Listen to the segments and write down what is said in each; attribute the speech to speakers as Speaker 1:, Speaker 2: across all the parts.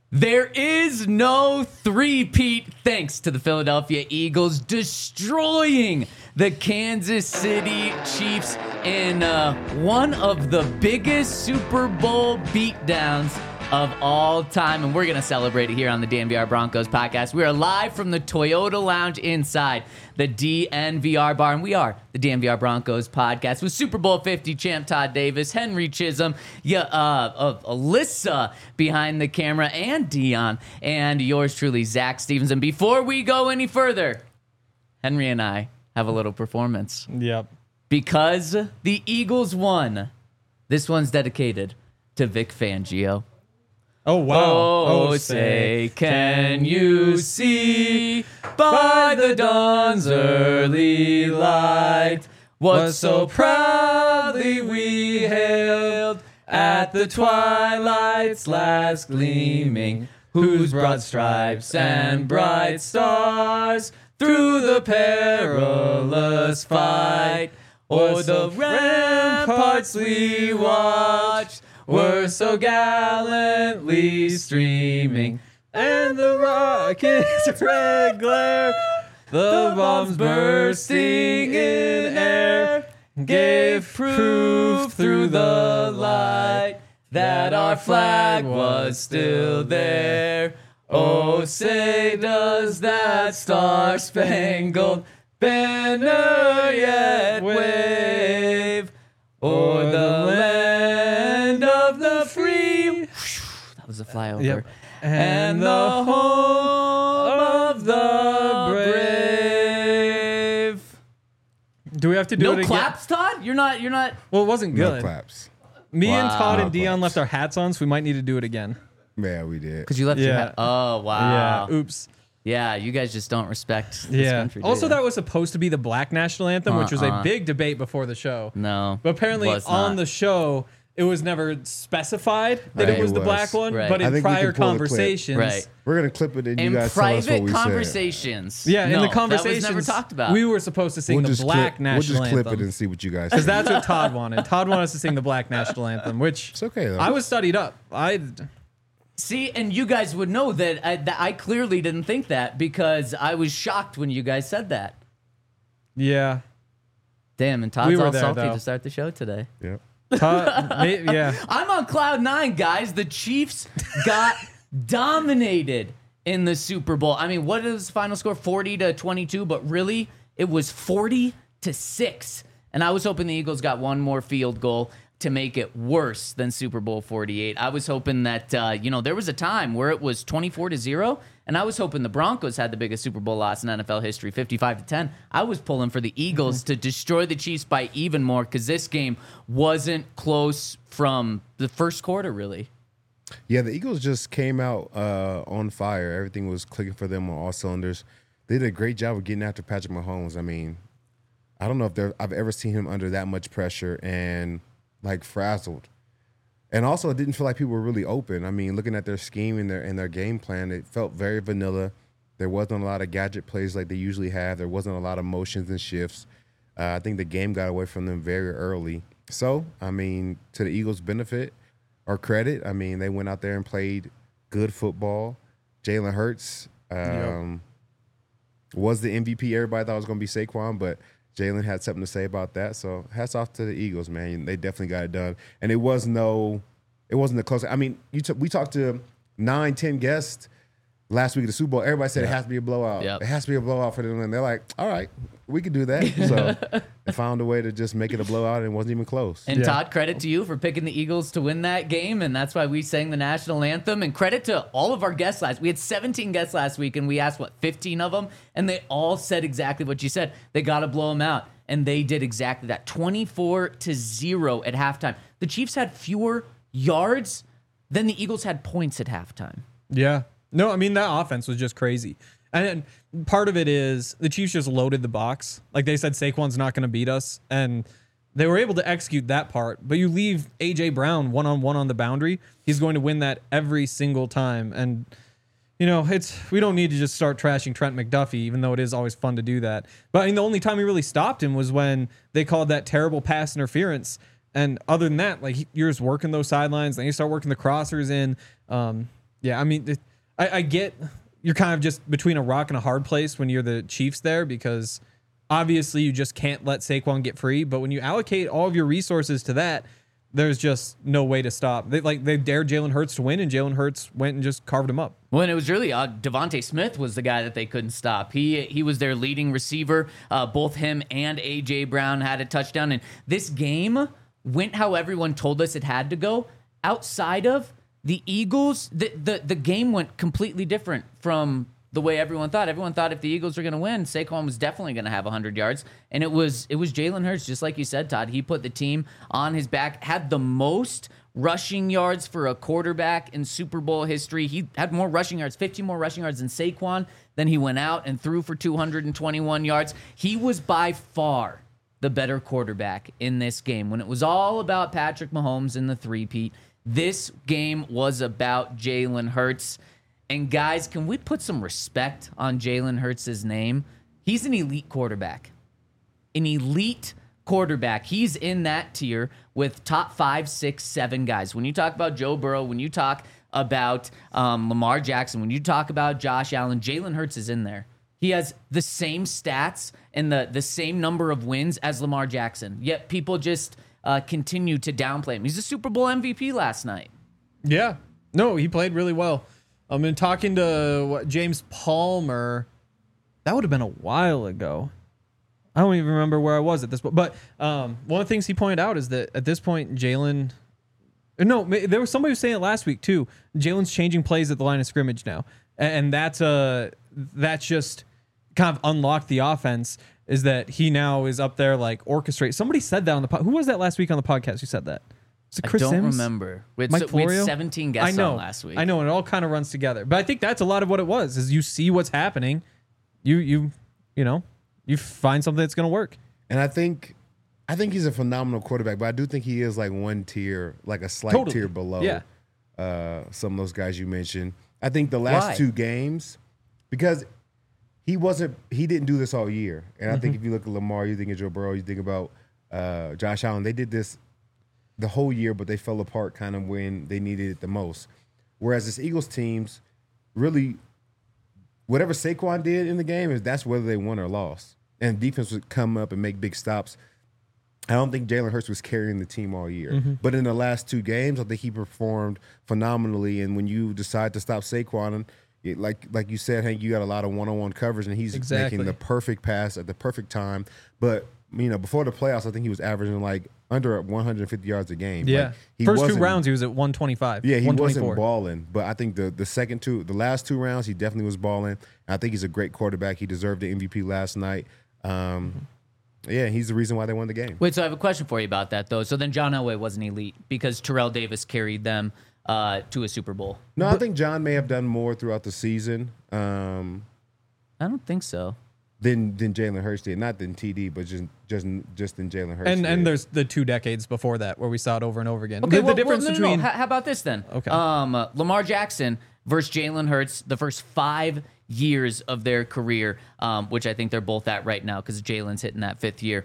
Speaker 1: There is no three-peat thanks to the Philadelphia Eagles destroying the Kansas City Chiefs in one of the biggest Super Bowl beatdowns of all time. And we're going to celebrate it here on the DNVR Broncos podcast. We are live from the Toyota Lounge inside the DNVR bar. And we are the DNVR Broncos podcast with Super Bowl 50 champ Todd Davis, Henry Chisholm, Alyssa behind the camera, and Dion, and yours truly, Zach Stevens. And before we go any further, Henry and I have a little performance.
Speaker 2: Yep.
Speaker 1: Because the Eagles won. This one's dedicated to Vic Fangio.
Speaker 2: Oh, wow.
Speaker 1: Oh, say, can you see by the dawn's early light what so proudly we hailed at the twilight's last gleaming, whose broad stripes and bright stars through the perilous fight o'er the ramparts we watched were so gallantly streaming, and the rocket's red glare, the bombs bursting in air, gave proof through the light that our flag was still there. Oh, say does that star-spangled banner yet wave o'er the land of the free. That was a flyover.
Speaker 2: Yep.
Speaker 1: And the home of the brave.
Speaker 2: Do we have to do it
Speaker 1: No
Speaker 2: again?
Speaker 1: claps, Todd? You're not.
Speaker 2: Well, it wasn't
Speaker 3: No
Speaker 2: good.
Speaker 3: claps.
Speaker 2: Me and
Speaker 1: Wow.
Speaker 2: Todd
Speaker 3: No
Speaker 2: and Dion
Speaker 3: claps.
Speaker 2: left our hats on, so we might need to do it again.
Speaker 3: Yeah, we did.
Speaker 1: Because you left your
Speaker 2: Yeah.
Speaker 1: hat. Oh, wow.
Speaker 2: Yeah. Oops.
Speaker 1: Yeah, you guys just don't respect this
Speaker 2: Yeah.
Speaker 1: country. do
Speaker 2: Also,
Speaker 1: you?
Speaker 2: that was supposed to be the Black National Anthem, which was a big debate before the show.
Speaker 1: No.
Speaker 2: But apparently
Speaker 1: was
Speaker 2: on
Speaker 1: not.
Speaker 2: the show, it was never specified that
Speaker 1: Right.
Speaker 2: it was
Speaker 3: It
Speaker 2: the
Speaker 3: was.
Speaker 2: black one.
Speaker 1: Right.
Speaker 2: But
Speaker 3: I
Speaker 2: in
Speaker 3: think we
Speaker 2: prior
Speaker 3: can pull the clip.
Speaker 2: conversations,
Speaker 1: Right.
Speaker 3: We're going to clip it and you
Speaker 1: In
Speaker 3: guys tell us what
Speaker 1: private
Speaker 3: we said.
Speaker 1: conversations.
Speaker 2: yeah, in
Speaker 1: No,
Speaker 2: the conversations,
Speaker 1: that was never talked about.
Speaker 2: we were supposed to sing the Black
Speaker 3: We'll
Speaker 2: National
Speaker 3: just clip
Speaker 2: Anthem.
Speaker 3: it and see what you guys
Speaker 2: Because
Speaker 3: say.
Speaker 2: that's what Todd wanted. Todd wanted us to sing the Black National Anthem, which
Speaker 3: It's okay, though.
Speaker 2: I was studied up.
Speaker 1: See, and you guys would know that I clearly didn't think that because I was shocked when you guys said that.
Speaker 2: Yeah.
Speaker 1: Damn, and Todd's
Speaker 2: We were
Speaker 1: all
Speaker 2: there,
Speaker 1: salty
Speaker 2: though.
Speaker 1: to start the show today.
Speaker 3: Yep.
Speaker 2: Todd, yeah.
Speaker 1: I'm on cloud nine, guys. The Chiefs got dominated in the Super Bowl. I mean, what is the final score? 40-22, but really, it was 40-6. And I was hoping the Eagles got one more field goal to make it worse than Super Bowl 48. I was hoping that, there was a time where it was 24-0, and I was hoping the Broncos had the biggest Super Bowl loss in NFL history, 55-10. I was pulling for the Eagles to destroy the Chiefs by even more because this game wasn't close from the first quarter, really.
Speaker 3: Yeah, the Eagles just came out on fire. Everything was clicking for them on all cylinders. They did a great job of getting after Patrick Mahomes. I mean, I don't know if I've ever seen him under that much pressure and like frazzled. And also, it didn't feel like people were really open. I mean, looking at their scheme and their game plan, it felt very vanilla. There wasn't a lot of gadget plays like they usually have. There wasn't a lot of motions and shifts. I think the game got away from them very early. So, I mean, to the Eagles' benefit or credit, I mean, they went out there and played good football. Jalen Hurts was the MVP. Everybody thought it was going to be Saquon, but Jalen had something to say about that. So hats off to the Eagles, man. They definitely got it done. And it wasn't a close. I mean, we talked to 9-10 guests last week at the Super Bowl. Everybody said it has to be a blowout.
Speaker 1: Yep.
Speaker 3: It has to be a blowout for them. And they're like, all right, we can do that. So they found a way to just make it a blowout, and it wasn't even close.
Speaker 1: And
Speaker 2: Yeah.
Speaker 1: Todd, credit to you for picking the Eagles to win that game, and that's why we sang the national anthem. And credit to all of our guests last. We had 17 guests last week, and we asked 15 of them, and they all said exactly what you said. They got to blow them out, and they did exactly that. 24-0 at halftime. The Chiefs had fewer yards than the Eagles had points at halftime.
Speaker 2: Yeah. No, I mean, that offense was just crazy. And part of it is the Chiefs just loaded the box. Like they said, Saquon's not going to beat us. And they were able to execute that part. But you leave A.J. Brown one-on-one on the boundary, he's going to win that every single time. And, we don't need to just start trashing Trent McDuffie, even though it is always fun to do that. But I mean, the only time we really stopped him was when they called that terrible pass interference. And other than that, like you're just working those sidelines. Then you start working the crossers in. Yeah, I mean, I get you're kind of just between a rock and a hard place when you're the Chiefs there, because obviously you just can't let Saquon get free. But when you allocate all of your resources to that, there's just no way to stop. They dared Jalen Hurts to win, and Jalen Hurts went and just carved him up.
Speaker 1: Well, and it was really Devontae Smith was the guy that they couldn't stop. He was their leading receiver. Both him and A.J. Brown had a touchdown. And this game went how everyone told us it had to go. Outside of the Eagles, the game went completely different from the way everyone thought. Everyone thought if the Eagles were going to win, Saquon was definitely going to have 100 yards. And it was Jalen Hurts, just like you said, Todd. He put the team on his back, had the most rushing yards for a quarterback in Super Bowl history. He had more rushing yards, 15 more rushing yards than Saquon. Then he went out and threw for 221 yards. He was by far the better quarterback in this game. When it was all about Patrick Mahomes in the three-peat, this game was about Jalen Hurts. And guys, can we put some respect on Jalen Hurts' name? He's an elite quarterback. An elite quarterback. He's in that tier with top 5, 6, 7 guys. When you talk about Joe Burrow, when you talk about Lamar Jackson, when you talk about Josh Allen, Jalen Hurts is in there. He has the same stats and the same number of wins as Lamar Jackson. Yet people just continue to downplay him. He's a Super Bowl MVP last night.
Speaker 2: Yeah. No, he played really well. I've been talking to James Palmer. That would have been a while ago. I don't even remember where I was at this point. But one of the things he pointed out is that at this point, Jalen... No, there was somebody who was saying it last week too. Jalen's changing plays at the line of scrimmage now. And that's just kind of unlocked the offense, is that he now is up there like orchestrate. Somebody said that on the podcast. Who was that last week on the podcast who said that? Was it Chris
Speaker 1: I don't
Speaker 2: Sims?
Speaker 1: remember. We had,
Speaker 2: Mike
Speaker 1: we had
Speaker 2: Florio?
Speaker 1: 17 guests on last week.
Speaker 2: I know, and it all kind of runs together. But I think that's a lot of what it was, is you see what's happening. You find something that's going to work.
Speaker 3: And I think he's a phenomenal quarterback, but I do think he is like one tier, like a slight tier below some of those guys you mentioned. I think the last two games, because he didn't do this all year. And I think if you look at Lamar, you think of Joe Burrow, you think about Josh Allen, they did this the whole year, but they fell apart kind of when they needed it the most. Whereas this Eagles teams, really, whatever Saquon did in the game, that's whether they won or lost. And defense would come up and make big stops. I don't think Jalen Hurts was carrying the team all year. But in the last two games, I think he performed phenomenally. And when you decide to stop Saquon, like you said, Hank, you got a lot of one-on-one coverage, and he's making the perfect pass at the perfect time. But, before the playoffs, I think he was averaging like under 150 yards a game.
Speaker 2: Yeah.
Speaker 3: Like,
Speaker 2: First 2 rounds, he was at 125.
Speaker 3: Yeah, he wasn't balling. But I think the last 2 rounds, he definitely was balling. I think he's a great quarterback. He deserved the MVP last night. Yeah, he's the reason why they won the game.
Speaker 1: Wait, so I have a question for you about that, though. So then John Elway wasn't elite because Terrell Davis carried them to a Super Bowl.
Speaker 3: No, I think John may have done more throughout the season.
Speaker 1: I don't think so.
Speaker 3: Than Jalen Hurts did. Not than TD, but just than Jalen Hurts did.
Speaker 2: And there's the 2 decades before that where we saw it over and over again.
Speaker 1: Okay,
Speaker 2: the difference between...
Speaker 1: How about this then?
Speaker 2: Okay.
Speaker 1: Lamar Jackson versus Jalen Hurts, the first 5 years of their career, which I think they're both at right now because Jalen's hitting that 5th year.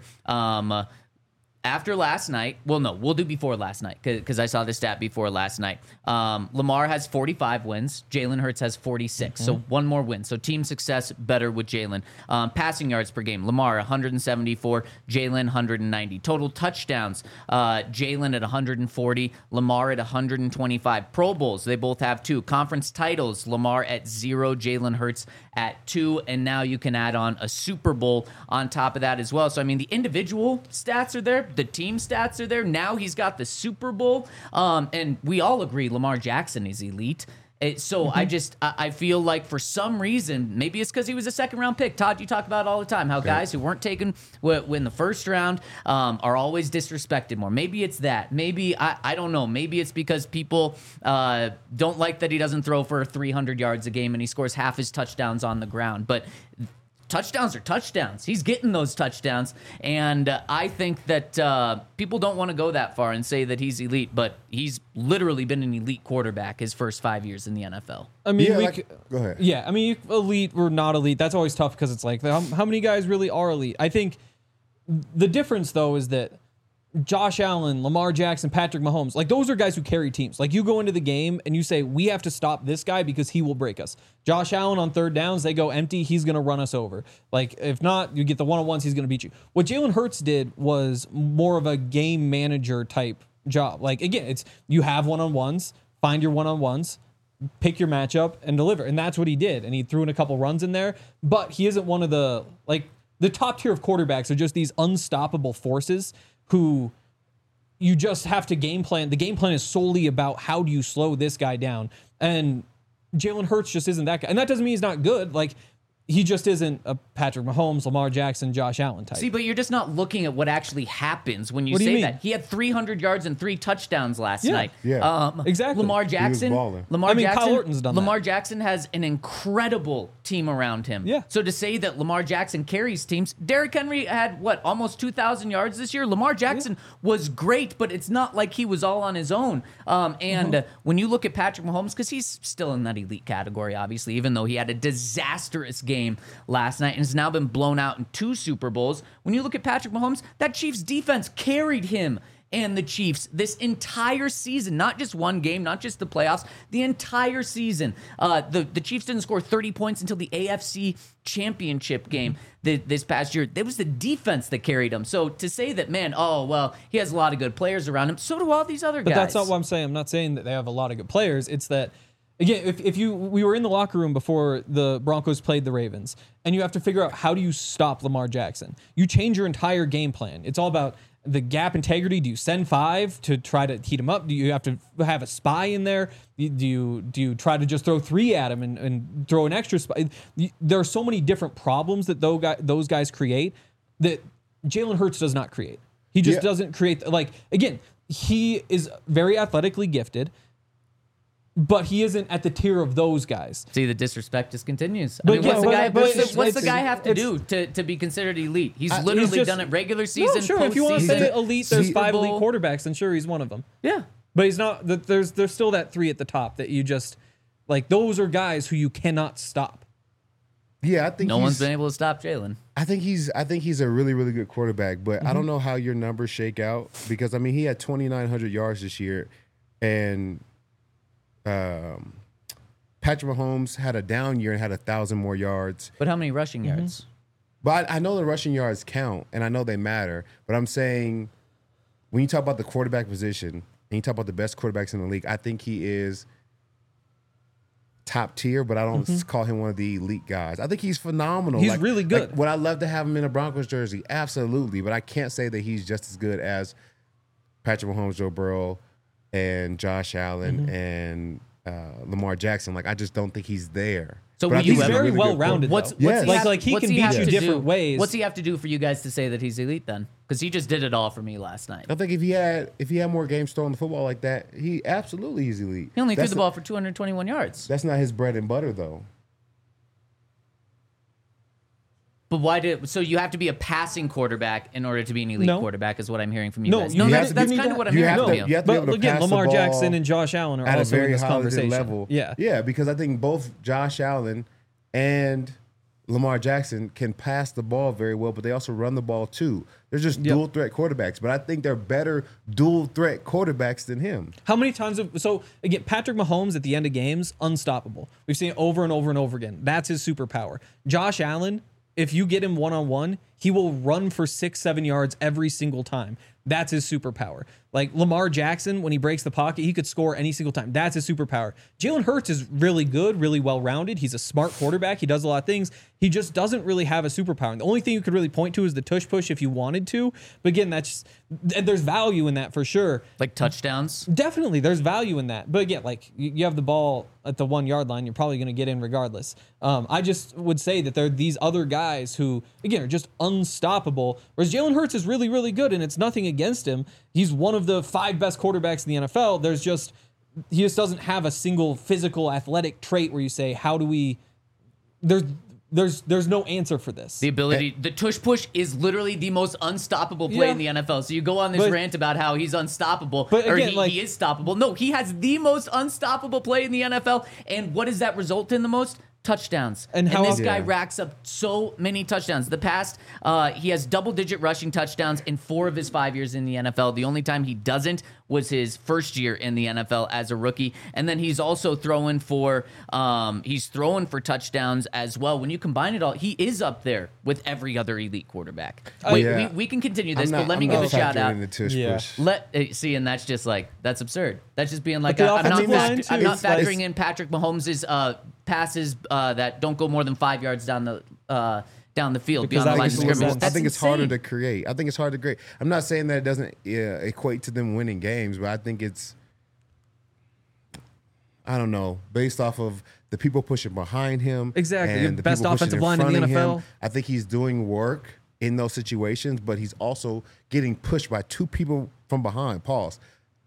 Speaker 1: After last night, well, no, we'll do before last night because I saw this stat before last night. Lamar has 45 wins. Jalen Hurts has 46. So 1 more win. So team success better with Jalen. Passing yards per game. Lamar 174. Jalen 190. Total touchdowns. Jalen at 140. Lamar at 125. Pro Bowls. They both have 2. Conference titles. Lamar at 0. Jalen Hurts at 2. And now you can add on a Super Bowl on top of that as well. So, the individual stats are there. The team stats are there. Now he's got the Super Bowl. And we all agree Lamar Jackson is elite. So I feel like for some reason, maybe it's because he was a 2nd-round pick. Todd, you talk about it all the time, how guys who weren't taken in the 1st round are always disrespected more. Maybe it's that. Maybe, I don't know. Maybe it's because people don't like that he doesn't throw for 300 yards a game and he scores half his touchdowns on the ground. But touchdowns are touchdowns. He's getting those touchdowns. And I think that people don't want to go that far and say that he's elite, but he's literally been an elite quarterback his first 5 years in the NFL.
Speaker 3: Go ahead.
Speaker 2: Yeah, elite or not elite, that's always tough because it's like, how many guys really are elite? I think the difference, though, is that Josh Allen, Lamar Jackson, Patrick Mahomes, like those are guys who carry teams. Like you go into the game and you say, we have to stop this guy because he will break us. Josh Allen on third downs, they go empty, he's going to run us over. Like if not, you get the one-on-ones, he's going to beat you. What Jalen Hurts did was more of a game manager type job. Like again, it's you have one-on-ones, find your one-on-ones, pick your matchup and deliver. And that's what he did. And he threw in a couple runs in there, but he isn't one of the top tier of quarterbacks are just these unstoppable forces who you just have to game plan. The game plan is solely about how do you slow this guy down. And Jalen Hurts just isn't that guy. And that doesn't mean he's not good. Like, he just isn't a Patrick Mahomes, Lamar Jackson, Josh Allen type.
Speaker 1: See, but you're just not looking at what actually happens when you
Speaker 2: What do you
Speaker 1: say
Speaker 2: mean?
Speaker 1: that. He had 300 yards and 3 touchdowns last night.
Speaker 3: Yeah.
Speaker 2: Exactly.
Speaker 1: Lamar Jackson.
Speaker 3: balling.
Speaker 1: Lamar
Speaker 2: I mean,
Speaker 1: Jackson.
Speaker 2: Kyle Orton's done
Speaker 1: Lamar
Speaker 2: that.
Speaker 1: Jackson has an incredible team around him.
Speaker 2: Yeah.
Speaker 1: So to say that Lamar Jackson carries teams, Derrick Henry had almost 2,000 yards this year. Lamar Jackson was great, but it's not like he was all on his own. When you look at Patrick Mahomes, because he's still in that elite category, obviously, even though he had a disastrous game last night and has now been blown out in 2 Super Bowls. When you look at Patrick Mahomes, that Chiefs defense carried him and the Chiefs this entire season, not just one game, not just the playoffs, the entire season. The Chiefs didn't score 30 points until the AFC Championship game this past year. It was the defense that carried him. So to say that, man, he has a lot of good players around him, so do all these other guys.
Speaker 2: But that's not what I'm saying. I'm not saying that they have a lot of good players. It's that, again, we were in the locker room before the Broncos played the Ravens, and you have to figure out how do you stop Lamar Jackson. You change your entire game plan. It's all about the gap integrity. Do you send 5 to try to heat him up? Do you have to have a spy in there? Do you try to just throw 3 at him and throw an extra spy? There are so many different problems that those guys create that Jalen Hurts does not create. He just doesn't create. Like, again, he is very athletically gifted, but he isn't at the tier of those guys.
Speaker 1: See, the disrespect just continues.
Speaker 2: But
Speaker 1: What's
Speaker 2: it's-
Speaker 1: the guy have to do to be considered elite? He's literally
Speaker 2: just-
Speaker 1: done it regular season,
Speaker 2: No, sure. If you want to
Speaker 1: postseason,
Speaker 2: say elite, there's
Speaker 1: Super
Speaker 2: 5 elite
Speaker 1: Bowl.
Speaker 2: quarterbacks, and sure, he's one of them.
Speaker 1: Yeah.
Speaker 2: But he's not. There's still that 3 at the top that you just like. Those are guys who you cannot stop.
Speaker 3: Yeah, I think
Speaker 1: No one's been able to stop Jalen.
Speaker 3: I think he's a really, really good quarterback, but I don't know how your numbers shake out because I mean he had 2,900 yards this year, and Patrick Mahomes had a down year and had 1,000 more yards.
Speaker 1: But how many rushing yards?
Speaker 3: But I know the rushing yards count, and I know they matter. But I'm saying when you talk about the quarterback position and you talk about the best quarterbacks in the league, I think he is top tier, but I don't call him one of the elite guys. I think he's phenomenal.
Speaker 2: He's really good.
Speaker 3: Would I love to have him in a Broncos jersey? Absolutely. But I can't say that he's just as good as Patrick Mahomes, Joe Burrow, and Josh Allen and Lamar Jackson. Like, I just don't think he's there.
Speaker 1: So
Speaker 3: But I
Speaker 1: will
Speaker 3: think
Speaker 1: you
Speaker 2: He's
Speaker 3: a
Speaker 1: ever-
Speaker 2: very
Speaker 3: really
Speaker 2: well
Speaker 3: good
Speaker 2: rounded.
Speaker 1: What's
Speaker 2: though.
Speaker 1: he
Speaker 3: Yes.
Speaker 1: have-
Speaker 2: Like, he
Speaker 1: what's
Speaker 2: can beat
Speaker 1: have
Speaker 2: you
Speaker 1: to
Speaker 2: different
Speaker 1: do?
Speaker 2: ways.
Speaker 1: What's he have to do for you guys to say that he's elite then? Because he just did it all for me last night.
Speaker 3: I think if he had more games throwing the football like that, he absolutely is elite.
Speaker 1: He only threw
Speaker 3: That's
Speaker 1: the ball for 221 yards.
Speaker 3: That's not his bread and butter, though.
Speaker 1: But so you have to be a passing quarterback in order to be an elite
Speaker 2: No.
Speaker 1: quarterback is what I'm hearing from you
Speaker 2: No,
Speaker 1: guys.
Speaker 2: you
Speaker 1: No,
Speaker 2: have
Speaker 1: that's
Speaker 2: to-
Speaker 1: that's
Speaker 2: you need
Speaker 1: kind of
Speaker 2: to-
Speaker 1: what I'm
Speaker 3: you
Speaker 1: hearing
Speaker 3: have
Speaker 1: from
Speaker 3: to-
Speaker 1: you.
Speaker 3: you have to be able
Speaker 2: But
Speaker 3: to
Speaker 2: again,
Speaker 3: pass
Speaker 2: Lamar
Speaker 3: the ball
Speaker 2: Jackson and Josh Allen are
Speaker 3: at a
Speaker 2: also in
Speaker 3: very
Speaker 2: this
Speaker 3: high legit
Speaker 2: conversation.
Speaker 3: level.
Speaker 2: Yeah.
Speaker 3: Yeah, because I think both Josh Allen and Lamar Jackson can pass the ball very well, but they also run the ball too. They're just dual threat quarterbacks, but I think they're better dual threat quarterbacks than him.
Speaker 2: How many times so again, Patrick Mahomes at the end of games, unstoppable. We've seen it over and over and over again. That's his superpower. Josh Allen, if you get him one-on-one, he will run for 6-7 yards every single time. That's his superpower. Like Lamar Jackson, when he breaks the pocket, he could score any single time. That's his superpower. Jalen Hurts is really good, really well-rounded. He's a smart quarterback. He does a lot of things. He just doesn't really have a superpower. And the only thing you could really point to is the tush push if you wanted to. But again, there's value in that for sure.
Speaker 1: Like touchdowns.
Speaker 2: Definitely, there's value in that. But again, like you have the ball at the 1 yard line, you're probably going to get in regardless. I just would say that there are these other guys who, again, are just unstoppable. Whereas Jalen Hurts is really, really good, and it's nothing against him. He's one of the 5 best quarterbacks in the NFL. He just doesn't have a single physical athletic trait where you say, how do we? There's no answer for this.
Speaker 1: The ability, the tush push is literally the most unstoppable play in the NFL. So you go on this rant about how he's unstoppable,
Speaker 2: But
Speaker 1: or
Speaker 2: again,
Speaker 1: he is stoppable. No, he has the most unstoppable play in the NFL. And what does that result in the most? touchdowns.
Speaker 2: And
Speaker 1: And
Speaker 2: how
Speaker 1: this
Speaker 2: often-
Speaker 1: guy
Speaker 3: Yeah.
Speaker 1: racks up so many touchdowns. The past, he has double-digit rushing touchdowns in 4 of his 5 years in the NFL. The only time he doesn't was his first year in the NFL as a rookie. And then he's also throwing for touchdowns as well. When you combine it all, he is up there with every other elite quarterback.
Speaker 3: Yeah.
Speaker 1: We can continue this,
Speaker 3: I'm
Speaker 1: but let me
Speaker 3: I'm
Speaker 1: give
Speaker 3: not
Speaker 1: a shout
Speaker 3: factoring
Speaker 1: out.
Speaker 3: in the tush
Speaker 2: Yeah.
Speaker 3: push.
Speaker 1: See, and that's just like, that's absurd. That's just being like,
Speaker 2: But the
Speaker 1: I'm not,
Speaker 2: offensive line,
Speaker 1: I'm
Speaker 2: too,
Speaker 1: not
Speaker 2: it's like-
Speaker 1: factoring in Patrick Mahomes' passes that don't go more than 5 yards down the field
Speaker 2: Because
Speaker 1: beyond the
Speaker 2: that
Speaker 1: line of
Speaker 2: makes more
Speaker 1: scrimmage.
Speaker 2: sense.
Speaker 3: I
Speaker 1: That's
Speaker 3: think it's harder
Speaker 1: insane.
Speaker 3: to create. I think it's hard to create. I'm not saying that it doesn't equate to them winning games, but I think it's, I don't know, based off of the people pushing behind him.
Speaker 2: Exactly.
Speaker 3: And the
Speaker 2: Best
Speaker 3: people pushing
Speaker 2: offensive line in the
Speaker 3: front of him.
Speaker 2: NFL.
Speaker 3: I think he's doing work in those situations, but he's also getting pushed by 2 people from behind. Pause.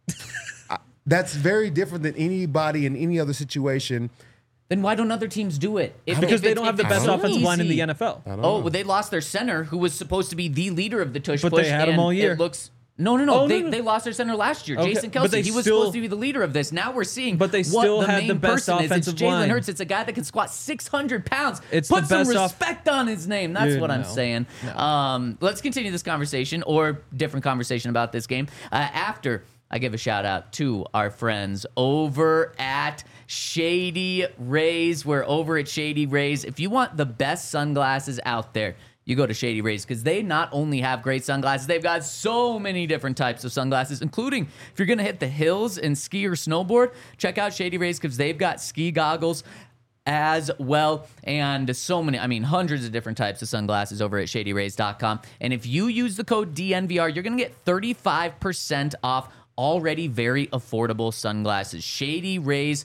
Speaker 3: That's very different than anybody in any other situation.
Speaker 1: Then why don't other teams do it?
Speaker 2: Because they don't have the best
Speaker 1: so
Speaker 2: offensive line in the
Speaker 1: easy.
Speaker 2: NFL.
Speaker 1: Oh, well, they lost their center, who was supposed to be the leader of the tush
Speaker 2: But
Speaker 1: push.
Speaker 2: they had him
Speaker 1: and
Speaker 2: all year.
Speaker 1: It looks. No.
Speaker 2: Oh,
Speaker 1: they,
Speaker 2: no, no.
Speaker 1: they lost their center last year.
Speaker 2: Okay,
Speaker 1: Jason
Speaker 2: but
Speaker 1: Kelsey.
Speaker 2: they
Speaker 1: He was
Speaker 2: still-
Speaker 1: supposed to be the leader of this. Now we're seeing
Speaker 2: But they
Speaker 1: what
Speaker 2: still
Speaker 1: the
Speaker 2: had
Speaker 1: main
Speaker 2: the best
Speaker 1: person
Speaker 2: offensive
Speaker 1: is. It's Jalen
Speaker 2: line.
Speaker 1: Hurts. It's a guy that can squat 600 pounds.
Speaker 2: It's
Speaker 1: Put
Speaker 2: the
Speaker 1: some
Speaker 2: best
Speaker 1: respect on his name. That's
Speaker 2: Dude,
Speaker 1: what I'm
Speaker 2: no.
Speaker 1: saying. Let's continue this conversation or different conversation about this game after I give a shout out to our friends over at Shady Rays. We're over at Shady Rays. If you want the best sunglasses out there, you go to Shady Rays because they not only have great sunglasses, they've got so many different types of sunglasses, including if you're going to hit the hills and ski or snowboard, check out Shady Rays because they've got ski goggles as well, and so many, I mean, hundreds of different types of sunglasses over at shadyrays.com. And if you use the code DNVR, you're going to get 35% off already very affordable sunglasses. Shady Rays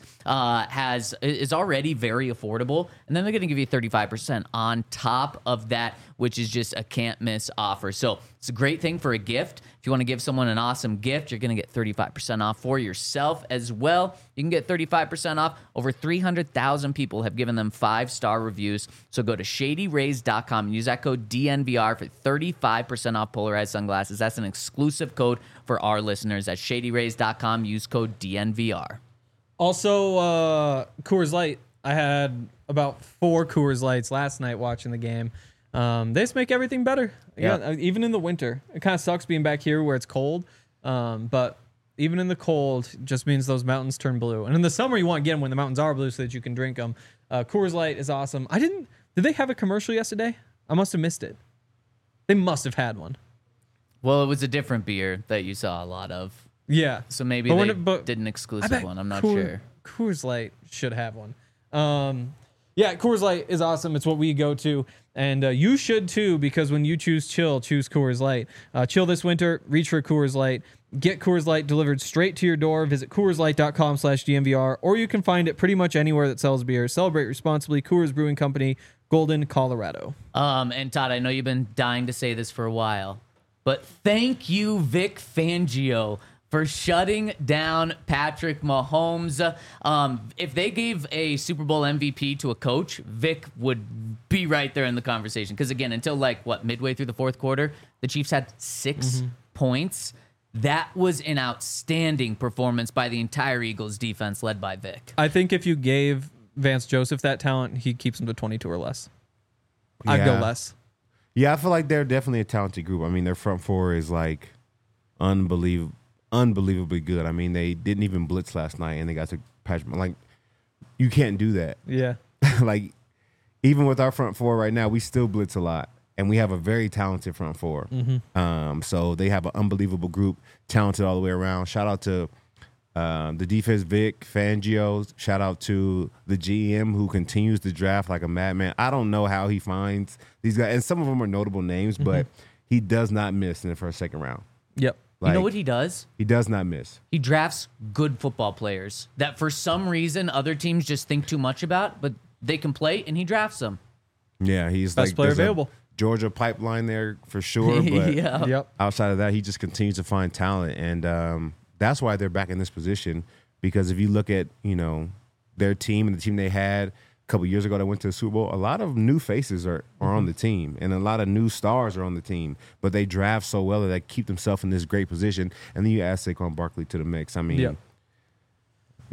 Speaker 1: is already very affordable, and then they're going to give you 35% on top of that, which is just a can't miss offer. So it's a great thing for a gift. If you want to give someone an awesome gift, you're going to get 35% off for yourself as well. You can get 35% off. Over 300,000 people have given them 5-star reviews. So go to shadyrays.com and use that code DNVR for 35% off polarized sunglasses. That's an exclusive code for our listeners at shadyrays.com. Use code DNVR.
Speaker 2: Also, Coors Light. I had about 4 Coors Lights last night watching the game. They just make everything better.
Speaker 1: Yeah.
Speaker 2: Even in the winter. It kind of sucks being back here where it's cold. But even in the cold, it just means those mountains turn blue. And in the summer, you want to get them when the mountains are blue so that you can drink them. Coors Light is awesome. Did they have a commercial yesterday? I must have missed it. They must have had one.
Speaker 1: Well, it was a different beer that you saw a lot of.
Speaker 2: Yeah.
Speaker 1: So maybe
Speaker 2: But
Speaker 1: they
Speaker 2: when it-
Speaker 1: did an
Speaker 2: I
Speaker 1: exclusive
Speaker 2: bet
Speaker 1: one. I'm not
Speaker 2: Coors-
Speaker 1: sure.
Speaker 2: Coors Light should have one. Yeah, Coors Light is awesome. It's what we go to. And you should too, because when you choose chill, choose Coors Light. Chill this winter, reach for Coors Light. Get Coors Light delivered straight to your door. Visit CoorsLight.com/DNVR, or you can find it pretty much anywhere that sells beer. Celebrate responsibly. Coors Brewing Company, Golden, Colorado.
Speaker 1: And Todd, I know you've been dying to say this for a while, but thank you, Vic Fangio, for shutting down Patrick Mahomes. If they gave a Super Bowl MVP to a coach, Vic would be right there in the conversation. Because again, until midway through the fourth quarter, the Chiefs had 6 points. That was an outstanding performance by the entire Eagles defense led by Vic.
Speaker 2: I think if you gave Vance Joseph that talent, he keeps him to 22 or less. I'd go
Speaker 3: Yeah.
Speaker 2: less.
Speaker 3: Yeah, I feel like they're definitely a talented group. I mean, their front four is like unbelievably good. I mean, they didn't even blitz last night, and they got to Patrick. Like, you can't do that.
Speaker 2: Yeah.
Speaker 3: Like, even with our front four right now, we still blitz a lot, and we have a very talented front four. So they have an unbelievable group, talented all the way around. Shout out to the defense, Vic Fangio. Shout out to the GM who continues to draft like a madman. I don't know how he finds these guys, and some of them are notable names, but he does not miss in the first, second round.
Speaker 2: Yep.
Speaker 1: You know
Speaker 3: Like,
Speaker 1: what he does?
Speaker 3: He does not miss.
Speaker 1: He drafts good football players that for some reason other teams just think too much about, but they can play, and he drafts them.
Speaker 3: Yeah, he's
Speaker 2: Best
Speaker 3: like
Speaker 2: player
Speaker 3: there's a
Speaker 2: available.
Speaker 3: Georgia pipeline there for sure, but
Speaker 1: Yeah.
Speaker 2: Yep.
Speaker 3: outside of that, he just continues to find talent, and that's why they're back in this position. Because if you look at their team and the team they had a couple years ago that went to the Super Bowl, a lot of new faces are on the team, and a lot of new stars are on the team. But they draft so well that they keep themselves in this great position, and then you add Saquon Barkley to the mix. I mean,
Speaker 2: Yep.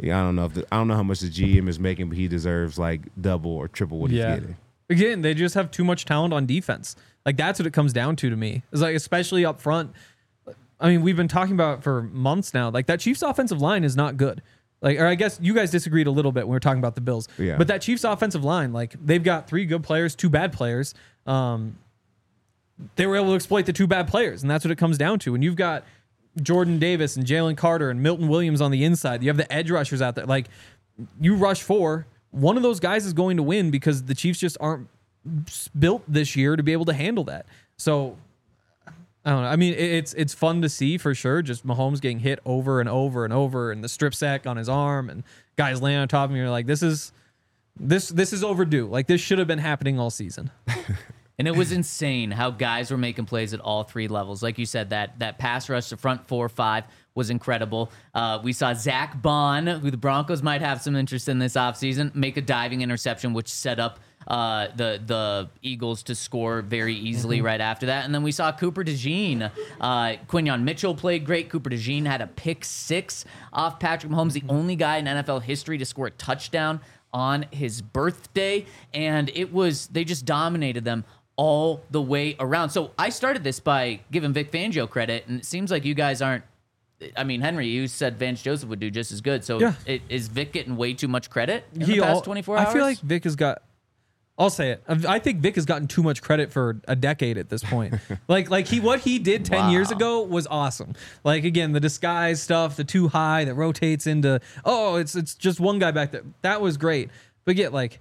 Speaker 3: Yeah, I don't know how much the GM is making, but he deserves like double or triple what he's getting.
Speaker 2: Again, they just have too much talent on defense. Like that's what it comes down to me. It's like especially up front. I mean, we've been talking about it for months now. Like that Chiefs offensive line is not good. Like, or I guess you guys disagreed a little bit when we were talking about the Bills.
Speaker 3: Yeah.
Speaker 2: But that Chiefs offensive line, like they've got 3 good players, 2 bad players. They were able to exploit the 2 bad players, and that's what it comes down to. And you've got Jordan Davis and Jalen Carter and Milton Williams on the inside. You have the edge rushers out there. Like you rush 4, one of those guys is going to win because the Chiefs just aren't built this year to be able to handle that. So I don't know. I mean, it's fun to see for sure. Just Mahomes getting hit over and over and over, and the strip sack on his arm, and guys laying on top of him. You're like, this is overdue. Like this should have been happening all season.
Speaker 1: And it was insane how guys were making plays at all 3 levels. Like you said, that pass rush to front 4, 5 was incredible. We saw Zach Bond, who the Broncos might have some interest in this offseason, make a diving interception, which set up the Eagles to score very easily right after that. And then we saw Cooper DeJean. Quinyon Mitchell played great. Cooper DeJean had a pick 6 off Patrick Mahomes, the only guy in NFL history to score a touchdown on his birthday. And they just dominated them all the way around. So I started this by giving Vic Fangio credit, and it seems like you guys aren't. I mean, Henry, you said Vance Joseph would do just as good. So
Speaker 2: Yeah.
Speaker 1: is Vic getting way too much credit in the past 24 hours?
Speaker 2: I feel like Vic has got. I'll say it. I think Vic has gotten too much credit for a decade at this point. what he did 10 years ago was awesome. Like again, the disguise stuff, the too high that rotates into it's just one guy back there. That was great. But yet, like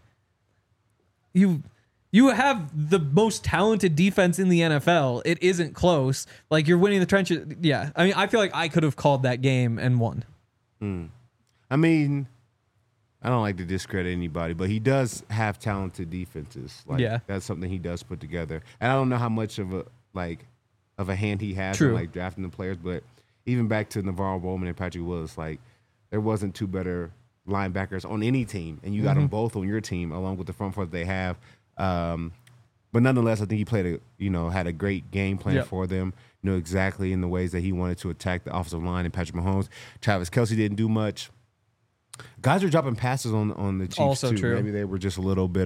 Speaker 2: you have the most talented defense in the NFL. It isn't close. Like you're winning the trenches. Yeah. I mean, I feel like I could have called that game and won.
Speaker 3: I mean, I don't like to discredit anybody, but he does have talented defenses. Like that's something he does put together. And I don't know how much of a hand he has in like drafting the players, but even back to Navarro Bowman and Patrick Willis, like there wasn't 2 better linebackers on any team, and you got them both on your team along with the front four that they have. But nonetheless, I think he had a great game plan for them. Knew exactly in the ways that he wanted to attack the offensive line and Patrick Mahomes. Travis Kelce didn't do much. Guys are dropping passes on the Chiefs
Speaker 2: also
Speaker 3: too.
Speaker 2: True.
Speaker 3: Maybe they were just a little bit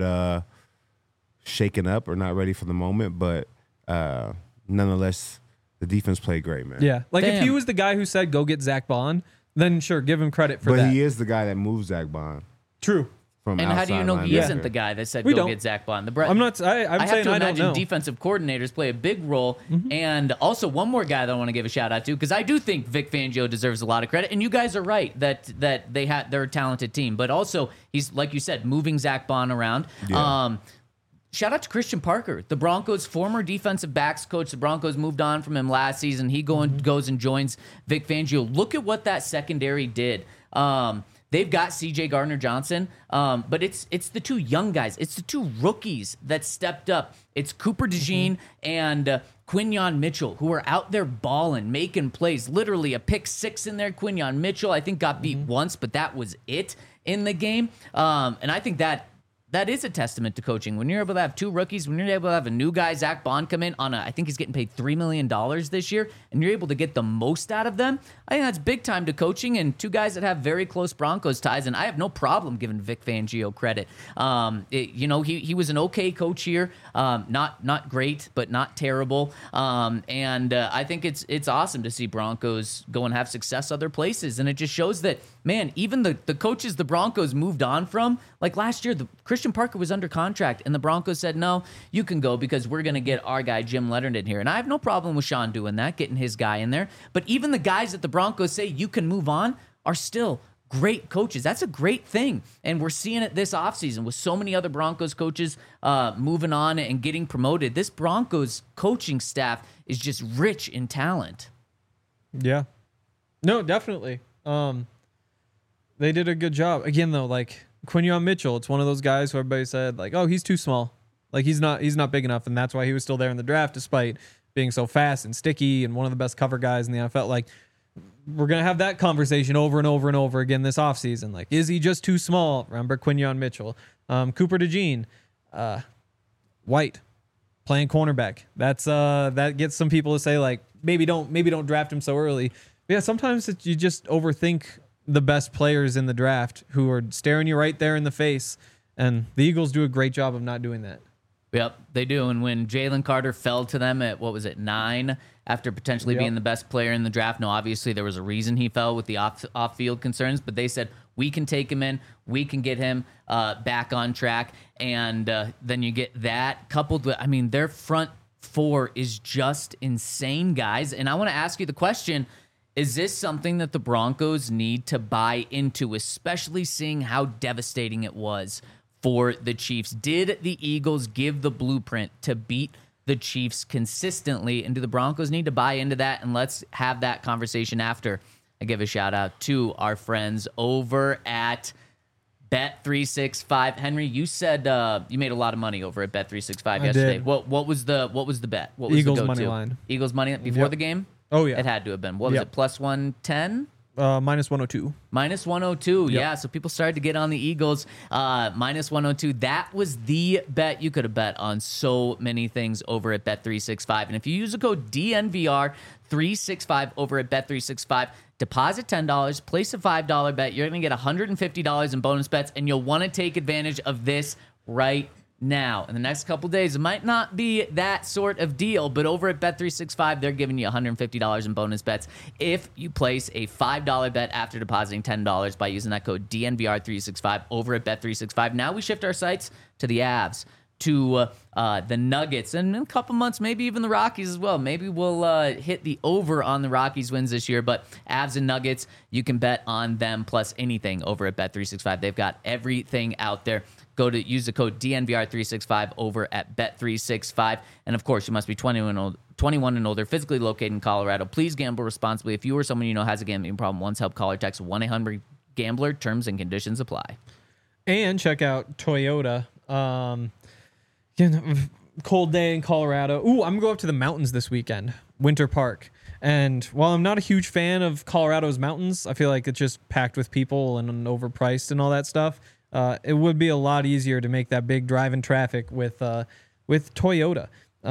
Speaker 3: shaken up or not ready for the moment, but nonetheless, the defense played great, man.
Speaker 2: Yeah, like if he was the guy who said go get Zach Bond, then sure, give him credit for that.
Speaker 3: But he is the guy that moved Zach Bond.
Speaker 2: True.
Speaker 1: And how do you know he isn't the guy that said go get Zach Bond?
Speaker 2: I'm not. I'm
Speaker 1: I have
Speaker 2: saying
Speaker 1: to
Speaker 2: I don't
Speaker 1: imagine
Speaker 2: know.
Speaker 1: defensive coordinators play a big role. And also one more guy that I want to give a shout out to, because I do think Vic Fangio deserves a lot of credit. And you guys are right that they're a talented team, but also he's, like you said, moving Zach Bond around.
Speaker 3: Yeah.
Speaker 1: Shout out to Christian Parker, the Broncos' former defensive backs coach. The Broncos moved on from him last season. He goes and joins Vic Fangio. Look at what that secondary did. They've got C.J. Gardner-Johnson, but it's the 2 young guys. It's the 2 rookies that stepped up. It's Cooper DeJean and Quinyon Mitchell, who are out there balling, making plays. Literally a pick 6 in there. Quinyon Mitchell, I think, got beat once, but that was it in the game. And I think that is a testament to coaching. When you're able to have 2 rookies, when you're able to have a new guy, Zach Bond, come in on I think he's getting paid $3 million this year, and you're able to get the most out of them, I think that's big time to coaching, and 2 guys that have very close Broncos ties, and I have no problem giving Vic Fangio credit. He was an okay coach here, not great, but not terrible, and I think it's awesome to see Broncos go and have success other places, and it just shows that, man, even the coaches the Broncos moved on from, like last year, Christian Parker was under contract, and the Broncos said, no, you can go because we're going to get our guy Jim Leonard in here. And I have no problem with Sean doing that, getting his guy in there. But even the guys that the Broncos say you can move on are still great coaches. That's a great thing. And we're seeing it this offseason with so many other Broncos coaches moving on and getting promoted. This Broncos coaching staff is just rich in talent.
Speaker 2: Yeah. No, definitely. They did a good job. Again, though, like Quinyon Mitchell, it's one of those guys who everybody said, like, oh, he's too small. Like, he's not big enough, and that's why he was still there in the draft, despite being so fast and sticky and one of the best cover guys in the NFL. Like, we're going to have that conversation over and over and over again this offseason. Like, is he just too small? Remember Quinyon Mitchell. Cooper DeJean. White. Playing cornerback. That gets some people to say, like, maybe don't draft him so early. But yeah, sometimes you just overthink the best players in the draft who are staring you right there in the face. And the Eagles do a great job of not doing that.
Speaker 1: Yep, they do. And when Jalen Carter fell to them at, 9, after potentially being the best player in the draft, no, obviously there was a reason he fell with the off-field concerns, but they said, we can take him in, we can get him back on track, and then you get that coupled with, their front four is just insane, guys. And I want to ask you the question, is this something that the Broncos need to buy into, especially seeing how devastating it was for the Chiefs? Did the Eagles give the blueprint to beat the Chiefs consistently? And do the Broncos need to buy into that? And let's have that conversation after I give a shout out to our friends over at Bet365. Henry, you said you made a lot of money over at Bet365 yesterday.
Speaker 2: Did.
Speaker 1: What was the bet? What was
Speaker 2: Eagles
Speaker 1: the go-to?
Speaker 2: money line.
Speaker 1: Eagles money before the game?
Speaker 2: Oh, yeah.
Speaker 1: It had to have been. What was it? Plus 110?
Speaker 2: Minus 102.
Speaker 1: Minus 102. Yeah, so people started to get on the Eagles. Minus 102. That was the bet. You could have bet on so many things over at Bet365. And if you use the code DNVR365 over at Bet365, deposit $10, place a $5 bet. You're going to get $150 in bonus bets, and you'll want to take advantage of this right now. In the next couple days, it might not be that sort of deal, but over at Bet365, they're giving you $150 in bonus bets if you place a $5 bet after depositing $10 by using that code DNVR365 over at Bet365. Now we shift our sights to the Avs, to the Nuggets, and in a couple months, maybe even the Rockies as well. Maybe we'll hit the over on the Rockies wins this year, but Avs and Nuggets, you can bet on them plus anything over at Bet365. They've got everything out there. Use the code DNVR365 over at Bet365. And of course, you must be 21 and older, physically located in Colorado. Please gamble responsibly. If you or someone you know has a gambling problem, once help, call or text 1-800-GAMBLER. Terms and conditions apply.
Speaker 2: And check out Toyota. Cold day in Colorado. Ooh, I'm going to go up to the mountains this weekend, Winter Park. And while I'm not a huge fan of Colorado's mountains, I feel like it's just packed with people and overpriced and all that stuff. It would be a lot easier to make that big drive in traffic with Toyota.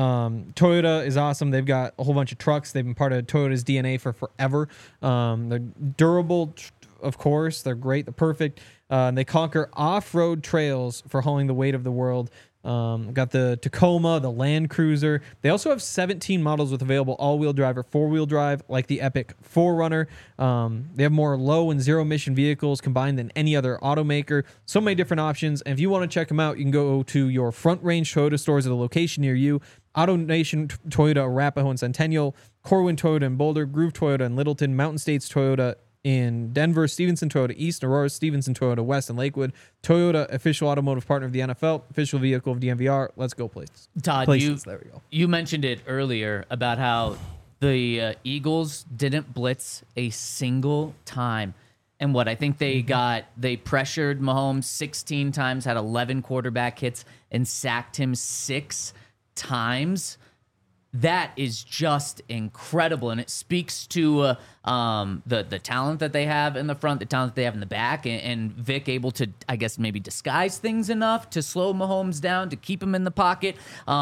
Speaker 2: Toyota is awesome. They've got a whole bunch of trucks. They've been part of Toyota's DNA for forever. They're durable, of course. They're great. They're perfect. And they conquer off-road trails for hauling the weight of the world. Got the Tacoma, the Land Cruiser. They also have 17 models with available all-wheel drive or four-wheel drive, like the Epic 4Runner. They have more low and zero-emission vehicles combined than any other automaker. So many different options. And if you want to check them out, you can go to your Front Range Toyota stores at a location near you. AutoNation Toyota, Arapahoe and Centennial, Corwin Toyota in Boulder, Groove Toyota in Littleton, Mountain States Toyota in Denver, Stevenson Toyota East, Aurora, Stevenson Toyota West, and Lakewood. Toyota, official automotive partner of the NFL, official vehicle of DNVR. Let's go places.
Speaker 1: Todd,
Speaker 2: There we go.
Speaker 1: You mentioned it earlier about how the Eagles didn't blitz a single time. And what I think they pressured Mahomes 16 times, had 11 quarterback hits, and sacked him 6 times. That is just incredible, and it speaks to the talent that they have in the front, the talent that they have in the back, and Vic able to, I guess, maybe disguise things enough to slow Mahomes down, to keep him in the pocket.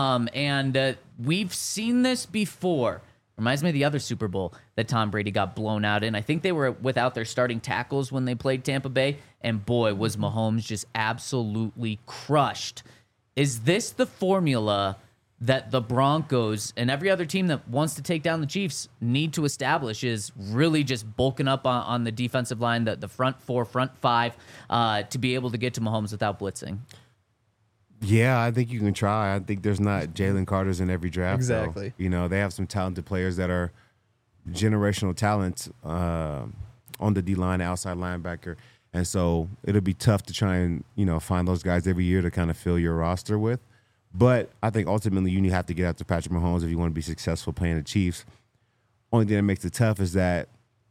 Speaker 1: And we've seen this before. Reminds me of the other Super Bowl that Tom Brady got blown out in. I think they were without their starting tackles when they played Tampa Bay, and boy, was Mahomes just absolutely crushed. Is this the formula that the Broncos and every other team that wants to take down the Chiefs need to establish, is really just bulking up on the defensive line, the front four, front five, to be able to get to Mahomes without blitzing?
Speaker 3: Yeah, I think you can try. I think there's not Jalen Carters in every draft.
Speaker 2: Exactly.
Speaker 3: Though. You know, they have some talented players that are generational talents on the D-line, outside linebacker. And so it'll be tough to try and, find those guys every year to kind of fill your roster with. But I think ultimately you have to get after Patrick Mahomes if you want to be successful playing the Chiefs. Only thing that makes it tough is that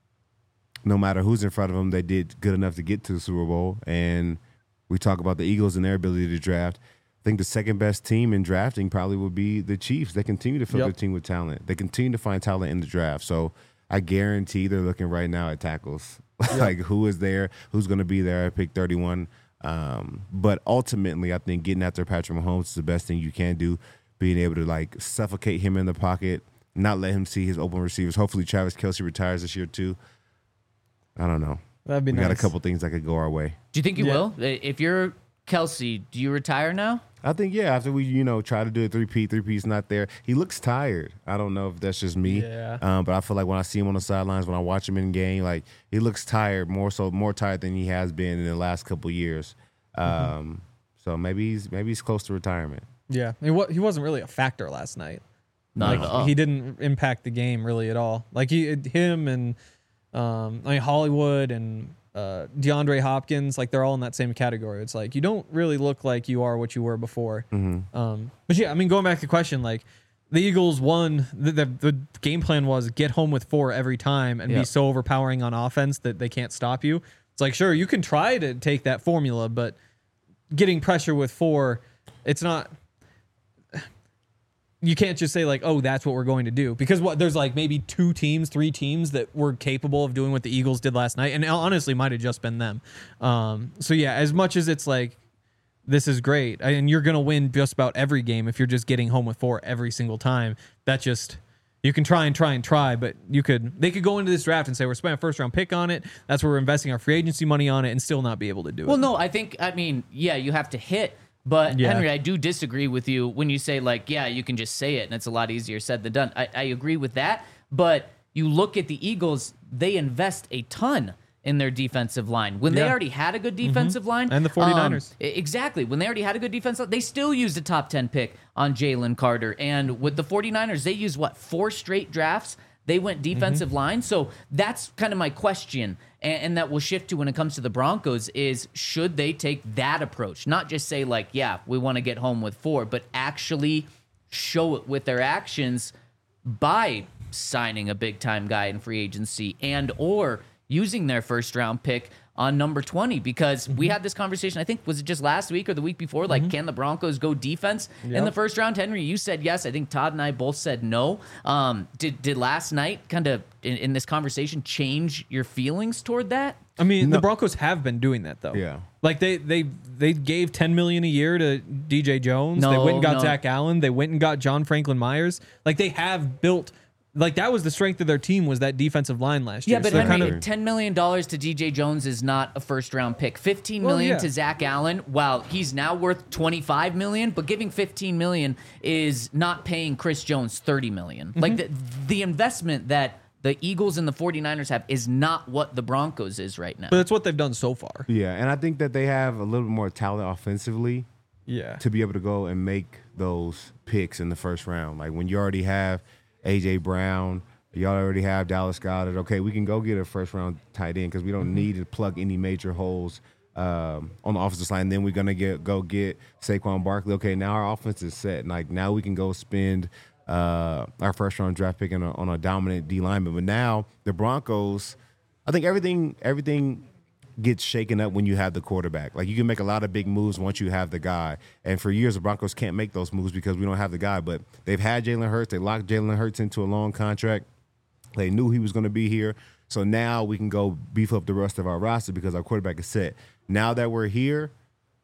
Speaker 3: no matter who's in front of them, they did good enough to get to the Super Bowl. And we talk about the Eagles and their ability to draft. I think the second best team in drafting probably would be the Chiefs. They continue to fill their team with talent. They continue to find talent in the draft. So I guarantee they're looking right now at tackles. Like who is there, who's going to be there at pick 31. But ultimately, I think getting after Patrick Mahomes is the best thing you can do. Being able to suffocate him in the pocket, not let him see his open receivers. Hopefully, Travis Kelce retires this year too. I don't know.
Speaker 2: That'd be
Speaker 3: we
Speaker 2: nice.
Speaker 3: got a couple things that could go our way.
Speaker 1: Do you think you
Speaker 2: Yeah.
Speaker 1: will? If you're Kelsey, do you retire now?
Speaker 3: I think, yeah, after we, try to do a three-peat's not there. He looks tired. I don't know if that's just me.
Speaker 2: Yeah.
Speaker 3: But I feel like when I see him on the sidelines, when I watch him in game, like he looks tired, more tired than he has been in the last couple years. So maybe he's close to retirement.
Speaker 2: Yeah, he wasn't really a factor last night.
Speaker 1: Not at all.
Speaker 2: He didn't impact the game really at all. Like him and Hollywood and DeAndre Hopkins, like they're all in that same category. It's like you don't really look like you are what you were before. But yeah, I mean, going back to the question, like the Eagles won. The game plan was get home with 4 every time and be
Speaker 1: Yep.
Speaker 2: so overpowering on offense that they can't stop you. It's like, sure, you can try to take that formula, but getting pressure with 4, it's not. You can't just say like, oh, that's what we're going to do, because there's like maybe 3 teams that were capable of doing what the Eagles did last night, and honestly might have just been them. So yeah, as much as it's like this is great, and you're gonna win just about every game if you're just getting home with 4 every single time. That just you can try, but they could go into this draft and say we're spending a first round pick on it. That's where we're investing our free agency money on it, and still not be able to do it.
Speaker 1: Well, no, I mean, yeah, you have to hit. But
Speaker 2: Yeah.
Speaker 1: Henry, I do disagree with you when you say like, yeah, you can just say it and it's a lot easier said than done. I agree with that. But you look at the Eagles, they invest a ton in their defensive line. When they
Speaker 2: Yeah.
Speaker 1: already had a good defensive line.
Speaker 2: And the 49ers.
Speaker 1: Exactly. When they already had a good defensive line, they still used a top 10 pick on Jalen Carter. And with the 49ers, they used 4 straight drafts? They went defensive line. So that's kind of my question. And that will shift to when it comes to the Broncos is should they take that approach? Not just say like, yeah, we want to get home with 4, but actually show it with their actions by signing a big time guy in free agency and or using their first round pick on number 20, because we had this conversation, I think, was it just last week or the week before? Like, can the Broncos go defense in the first round? Henry, you said yes. I think Todd and I both said no. Did last night kind of in this conversation change your feelings toward that?
Speaker 2: I mean, the Broncos have been doing that though.
Speaker 3: Yeah.
Speaker 2: Like they gave $10 million a year to DJ Jones. They
Speaker 1: No,
Speaker 2: went and got
Speaker 1: no.
Speaker 2: Zach Allen. They went and got John Franklin Myers. Like they have built. Like that was the strength of their team, was that defensive line last year.
Speaker 1: Yeah, but
Speaker 2: So they're
Speaker 1: Henry, $10 million to DJ Jones is not a first round pick. $15 million to Zach Allen, while he's now worth $25 million, but giving $15 million is not paying Chris Jones $30 million. Like the investment that the Eagles and the 49ers have is not what the Broncos is right now.
Speaker 2: But that's what they've done so far.
Speaker 3: Yeah, and I think that they have a little bit more talent offensively
Speaker 2: Yeah.
Speaker 3: to be able to go and make those picks in the first round. Like when you already have A.J. Brown, you already have Dallas Goedert. Okay, we can go get a first-round tight end because we don't need to plug any major holes on the offensive line. Then we're gonna go get Saquon Barkley. Okay, now our offense is set. Like now we can go spend our first-round draft pick on a dominant D lineman. But now the Broncos, I think everything gets shaken up when you have the quarterback. Like you can make a lot of big moves once you have the guy. And for years, the Broncos can't make those moves because we don't have the guy. But they've had Jalen Hurts. They locked Jalen Hurts into a long contract. They knew he was going to be here. So now we can go beef up the rest of our roster because our quarterback is set. Now that we're here,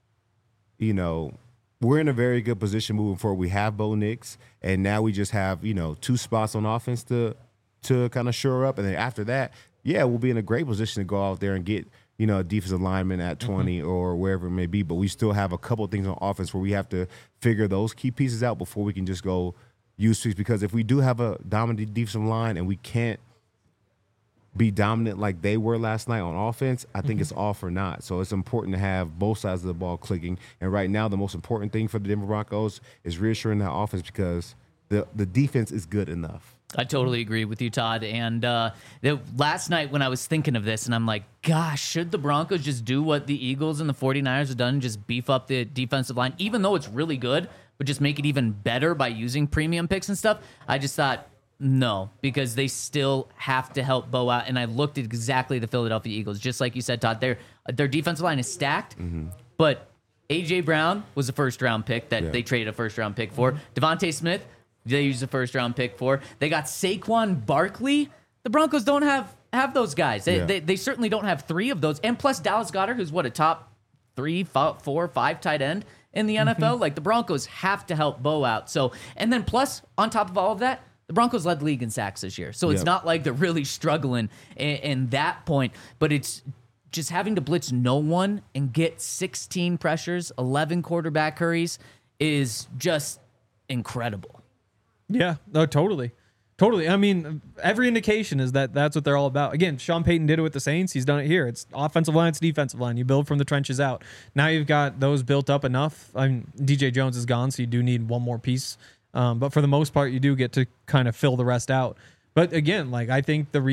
Speaker 3: we're in a very good position moving forward. We have Bo Nix, and now we just have, 2 spots on offense to kind of shore up. And then after that, yeah, we'll be in a great position to go out there and get a defensive lineman at 20 or wherever it may be. But we still have a couple of things on offense where we have to figure those key pieces out before we can just go use tweaks. Because if we do have a dominant defensive line and we can't be dominant like they were last night on offense, I think it's all for naught. So it's important to have both sides of the ball clicking. And right now, the most important thing for the Denver Broncos is reassuring that offense because the defense is good enough.
Speaker 1: I totally agree with you, Todd. And last night when I was thinking of this, and I'm like, gosh, should the Broncos just do what the Eagles and the 49ers have done and just beef up the defensive line, even though it's really good, but just make it even better by using premium picks and stuff? I just thought, no, because they still have to help Bo out. And I looked at exactly the Philadelphia Eagles, just like you said, Todd. Their defensive line is stacked, but A.J. Brown was a first-round pick that they traded a first-round pick for. Devontae Smith, they used a first-round pick for. They got Saquon Barkley. The Broncos don't have those guys. They certainly don't have 3 of those. And plus Dallas Goedert, who's a top 3, 4, 5 tight end in the NFL. Like the Broncos have to help Bo out. So, and then plus on top of all of that, the Broncos led the league in sacks this year. So it's not like they're really struggling in that point. But it's just having to blitz no one and get 16 pressures, 11 quarterback hurries is just incredible.
Speaker 2: Yeah, no, totally. Totally. I mean, every indication is that that's what they're all about. Again, Sean Payton did it with the Saints. He's done it here. It's offensive line, it's defensive line. You build from the trenches out. Now you've got those built up enough. I mean, DJ Jones is gone, so you do need one more piece. But for the most part, you do get to kind of fill the rest out. But again, like I think the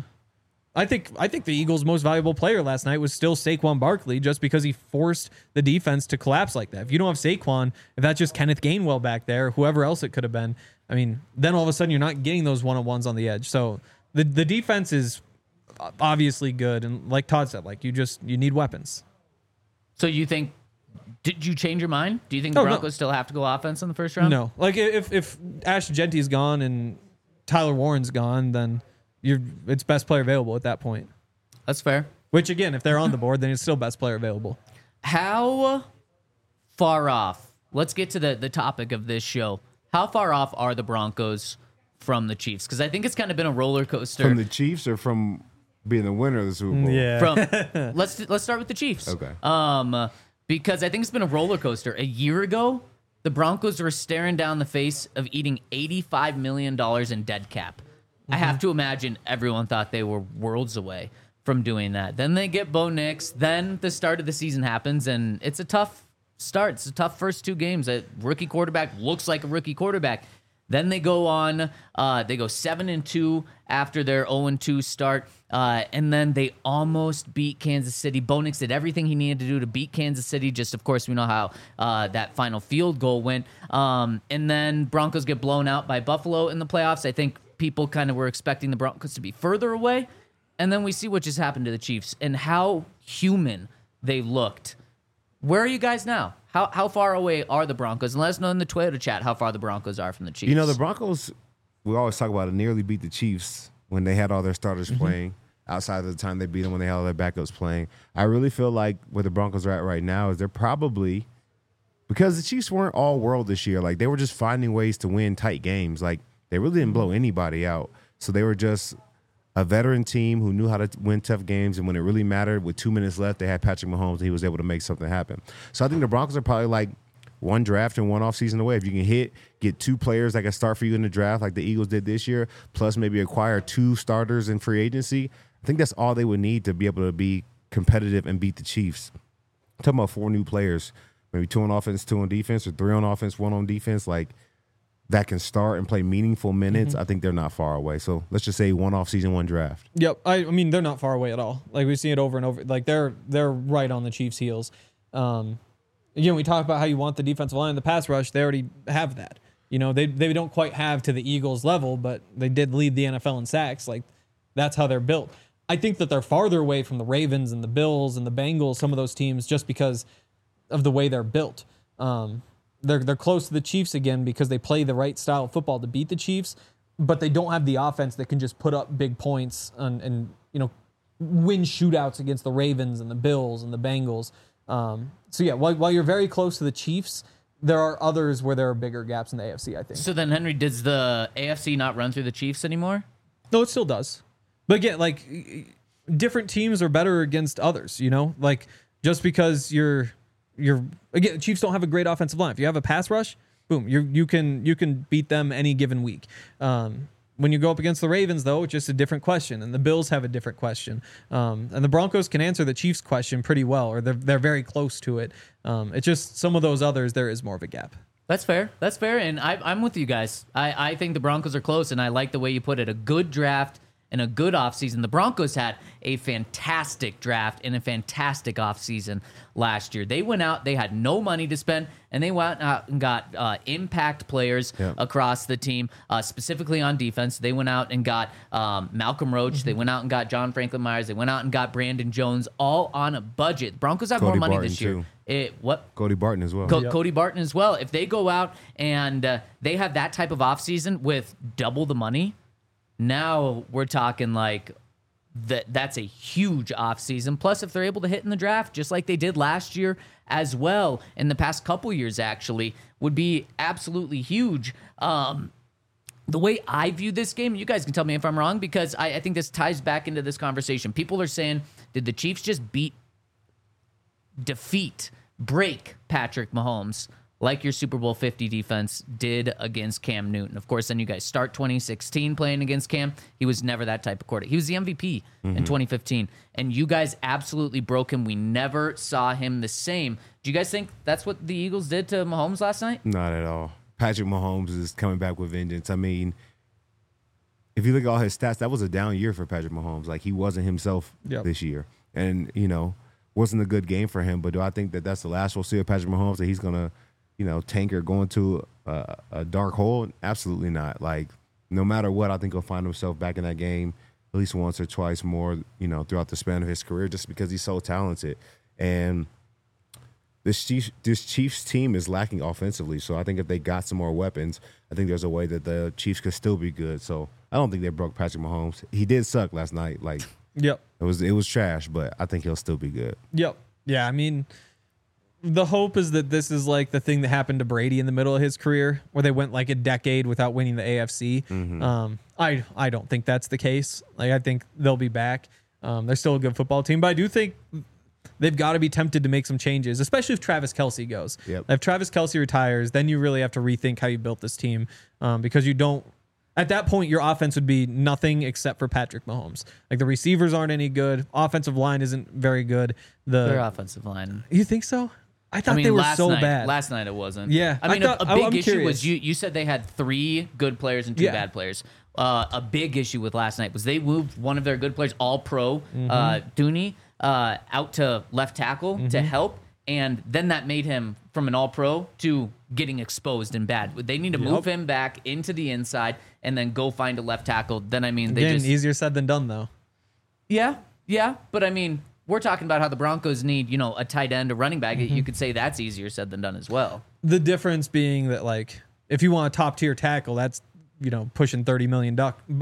Speaker 2: Eagles' most valuable player last night was still Saquon Barkley, just because he forced the defense to collapse like that. If you don't have Saquon, if that's just Kenneth Gainwell back there, whoever else it could have been, I mean, then all of a sudden you're not getting those one-on-ones on the edge. So the defense is obviously good, and like Todd said, like you need weapons.
Speaker 1: So you think? Did you change your mind? Do you think the Broncos still have to go offense in the first round?
Speaker 2: No. Like if Ash Gentry's gone and Tyler Warren's gone, then it's best player available at that point.
Speaker 1: That's fair.
Speaker 2: Which again, if they're on the board, then it's still best player available.
Speaker 1: How far off? Let's get to the topic of this show. How far off are the Broncos from the Chiefs? Because I think it's kind of been a roller coaster.
Speaker 3: From the Chiefs or from being the winner of the Super Bowl?
Speaker 2: Yeah.
Speaker 1: From let's start with the Chiefs.
Speaker 3: Okay.
Speaker 1: Because I think it's been a roller coaster. A year ago, the Broncos were staring down the face of eating $85 million in dead cap. I have to imagine everyone thought they were worlds away from doing that. Then they get Bo Nix. Then the start of the season happens, and it's a tough start. It's a tough first two games. A rookie quarterback looks like a rookie quarterback. Then they go on. They go 7-2 after their 0-2 start, and then they almost beat Kansas City. Bo Nix did everything he needed to do to beat Kansas City. Just, of course, we know how that final field goal went. And then Broncos get blown out by Buffalo in the playoffs. I think people kind of were expecting the Broncos to be further away, and then we see what just happened to the Chiefs and how human they looked. Where are you guys now? How far away are the Broncos? And let us know in the Twitter chat how far the Broncos are from the Chiefs.
Speaker 3: You know, the Broncos, we always talk about it, nearly beat the Chiefs when they had all their starters playing, outside of the time they beat them when they had all their backups playing. I really feel like where the Broncos are at right now is they're probably, because the Chiefs weren't all world this year. Like, they were just finding ways to win tight games. Like, they really didn't blow anybody out. So they were just a veteran team who knew how to win tough games, and when it really mattered, with 2 minutes left, they had Patrick Mahomes, and he was able to make something happen. So I think the Broncos are probably like one draft and one offseason away. If you can get two players that can start for you in the draft like the Eagles did this year, plus maybe acquire two starters in free agency, I think that's all they would need to be able to be competitive and beat the Chiefs. I'm talking about 4 new players, maybe 2 on offense, 2 on defense, or 3 on offense, 1 on defense, like that can start and play meaningful minutes. I think they're not far away. So let's just say 1 offseason, 1 draft.
Speaker 2: Yep. I mean, they're not far away at all. Like, we've seen it over and over. Like, they're right on the Chiefs' heels. Again, we talk about how you want the defensive line and the pass rush. They already have that. You know, they don't quite have to the Eagles level, but they did lead the NFL in sacks. Like, that's how they're built. I think that they're farther away from the Ravens and the Bills and the Bengals, some of those teams, just because of the way they're built. They're close to the Chiefs again because they play the right style of football to beat the Chiefs, but they don't have the offense that can just put up big points and you know, win shootouts against the Ravens and the Bills and the Bengals. So yeah, while you're very close to the Chiefs, there are others where there are bigger gaps in the AFC, I think.
Speaker 1: So then, Henry, does the AFC not run through the Chiefs anymore?
Speaker 2: No, it still does. But again, like, different teams are better against others, you know? Like, just because you're again, Chiefs don't have a great offensive line. If you have a pass rush, boom, you can beat them any given week. When you go up against the Ravens, though, it's just a different question, and the Bills have a different question. And the Broncos can answer the Chiefs' question pretty well, or they're very close to it. It's just some of those others, there is more of a gap.
Speaker 1: That's fair. That's fair, and I'm with you guys. I think the Broncos are close, and I like the way you put it. A good draft and a good offseason. The Broncos had a fantastic draft and a fantastic offseason last year. They went out, they had no money to spend, and they went out and got impact players across the team, specifically on defense. They went out and got Malcolm Roach. They went out and got John Franklin Myers. They went out and got Brandon Jones, all on a budget. Broncos have more money this year.
Speaker 3: Cody Barton as well.
Speaker 1: Cody Barton as well. If they go out and they have that type of offseason with double the money, now we're talking like that's a huge offseason. Plus, if they're able to hit in the draft, just like they did last year as well, in the past couple years actually, would be absolutely huge. The way I view this game, you guys can tell me if I'm wrong, because I think this ties back into this conversation. People are saying Did the Chiefs just break Patrick Mahomes like your Super Bowl 50 defense did against Cam Newton? Of course, then you guys start 2016 playing against Cam. He was never that type of quarterback. He was the MVP in 2015, and you guys absolutely broke him. We never saw him the same. Do you guys think that's what the Eagles did to Mahomes last night?
Speaker 3: Not at all. Patrick Mahomes is coming back with vengeance. I mean, if you look at all his stats, that was a down year for Patrick Mahomes. Like, he wasn't himself this year. And, wasn't a good game for him. But do I think that that's the last we'll see of Patrick Mahomes, that he's going to, tank or go into a dark hole? Absolutely not. Like, no matter what, I think he'll find himself back in that game at least once or twice more, throughout the span of his career, just because he's so talented. And this Chiefs team is lacking offensively. So I think if they got some more weapons, I think there's a way that the Chiefs could still be good. So I don't think they broke Patrick Mahomes. He did suck last night. Like,
Speaker 2: Yep.
Speaker 3: it was trash, but I think he'll still be good.
Speaker 2: Yep. Yeah, I mean, the hope is that this is like the thing that happened to Brady in the middle of his career, where they went like a decade without winning the AFC. I don't think that's the case. Like, I think they'll be back. They're still a good football team, but I do think they've got to be tempted to make some changes, especially if Travis Kelce goes.
Speaker 3: Yep.
Speaker 2: If Travis Kelce retires, then you really have to rethink how you built this team, because you don't. At that point, your offense would be nothing except for Patrick Mahomes. Like, the receivers aren't any good. Offensive line isn't very good.
Speaker 1: Their offensive line.
Speaker 2: You think so? I thought they were so bad.
Speaker 1: Last night it wasn't.
Speaker 2: Yeah.
Speaker 1: I mean, a big issue
Speaker 2: curious.
Speaker 1: was you said they had 3 good players and 2 bad players. A big issue with last night was they moved one of their good players, all-pro, Dooney, out to left tackle to help. And then that made him from an all-pro to getting exposed and bad. They need to move him back into the inside and then go find a left tackle. Then, I mean, they just...
Speaker 2: easier said than done, though.
Speaker 1: Yeah. But, I mean, we're talking about how the Broncos need, a tight end, a running back. You could say that's easier said than done as well.
Speaker 2: The difference being that, like, if you want a top-tier tackle, that's, pushing $30 million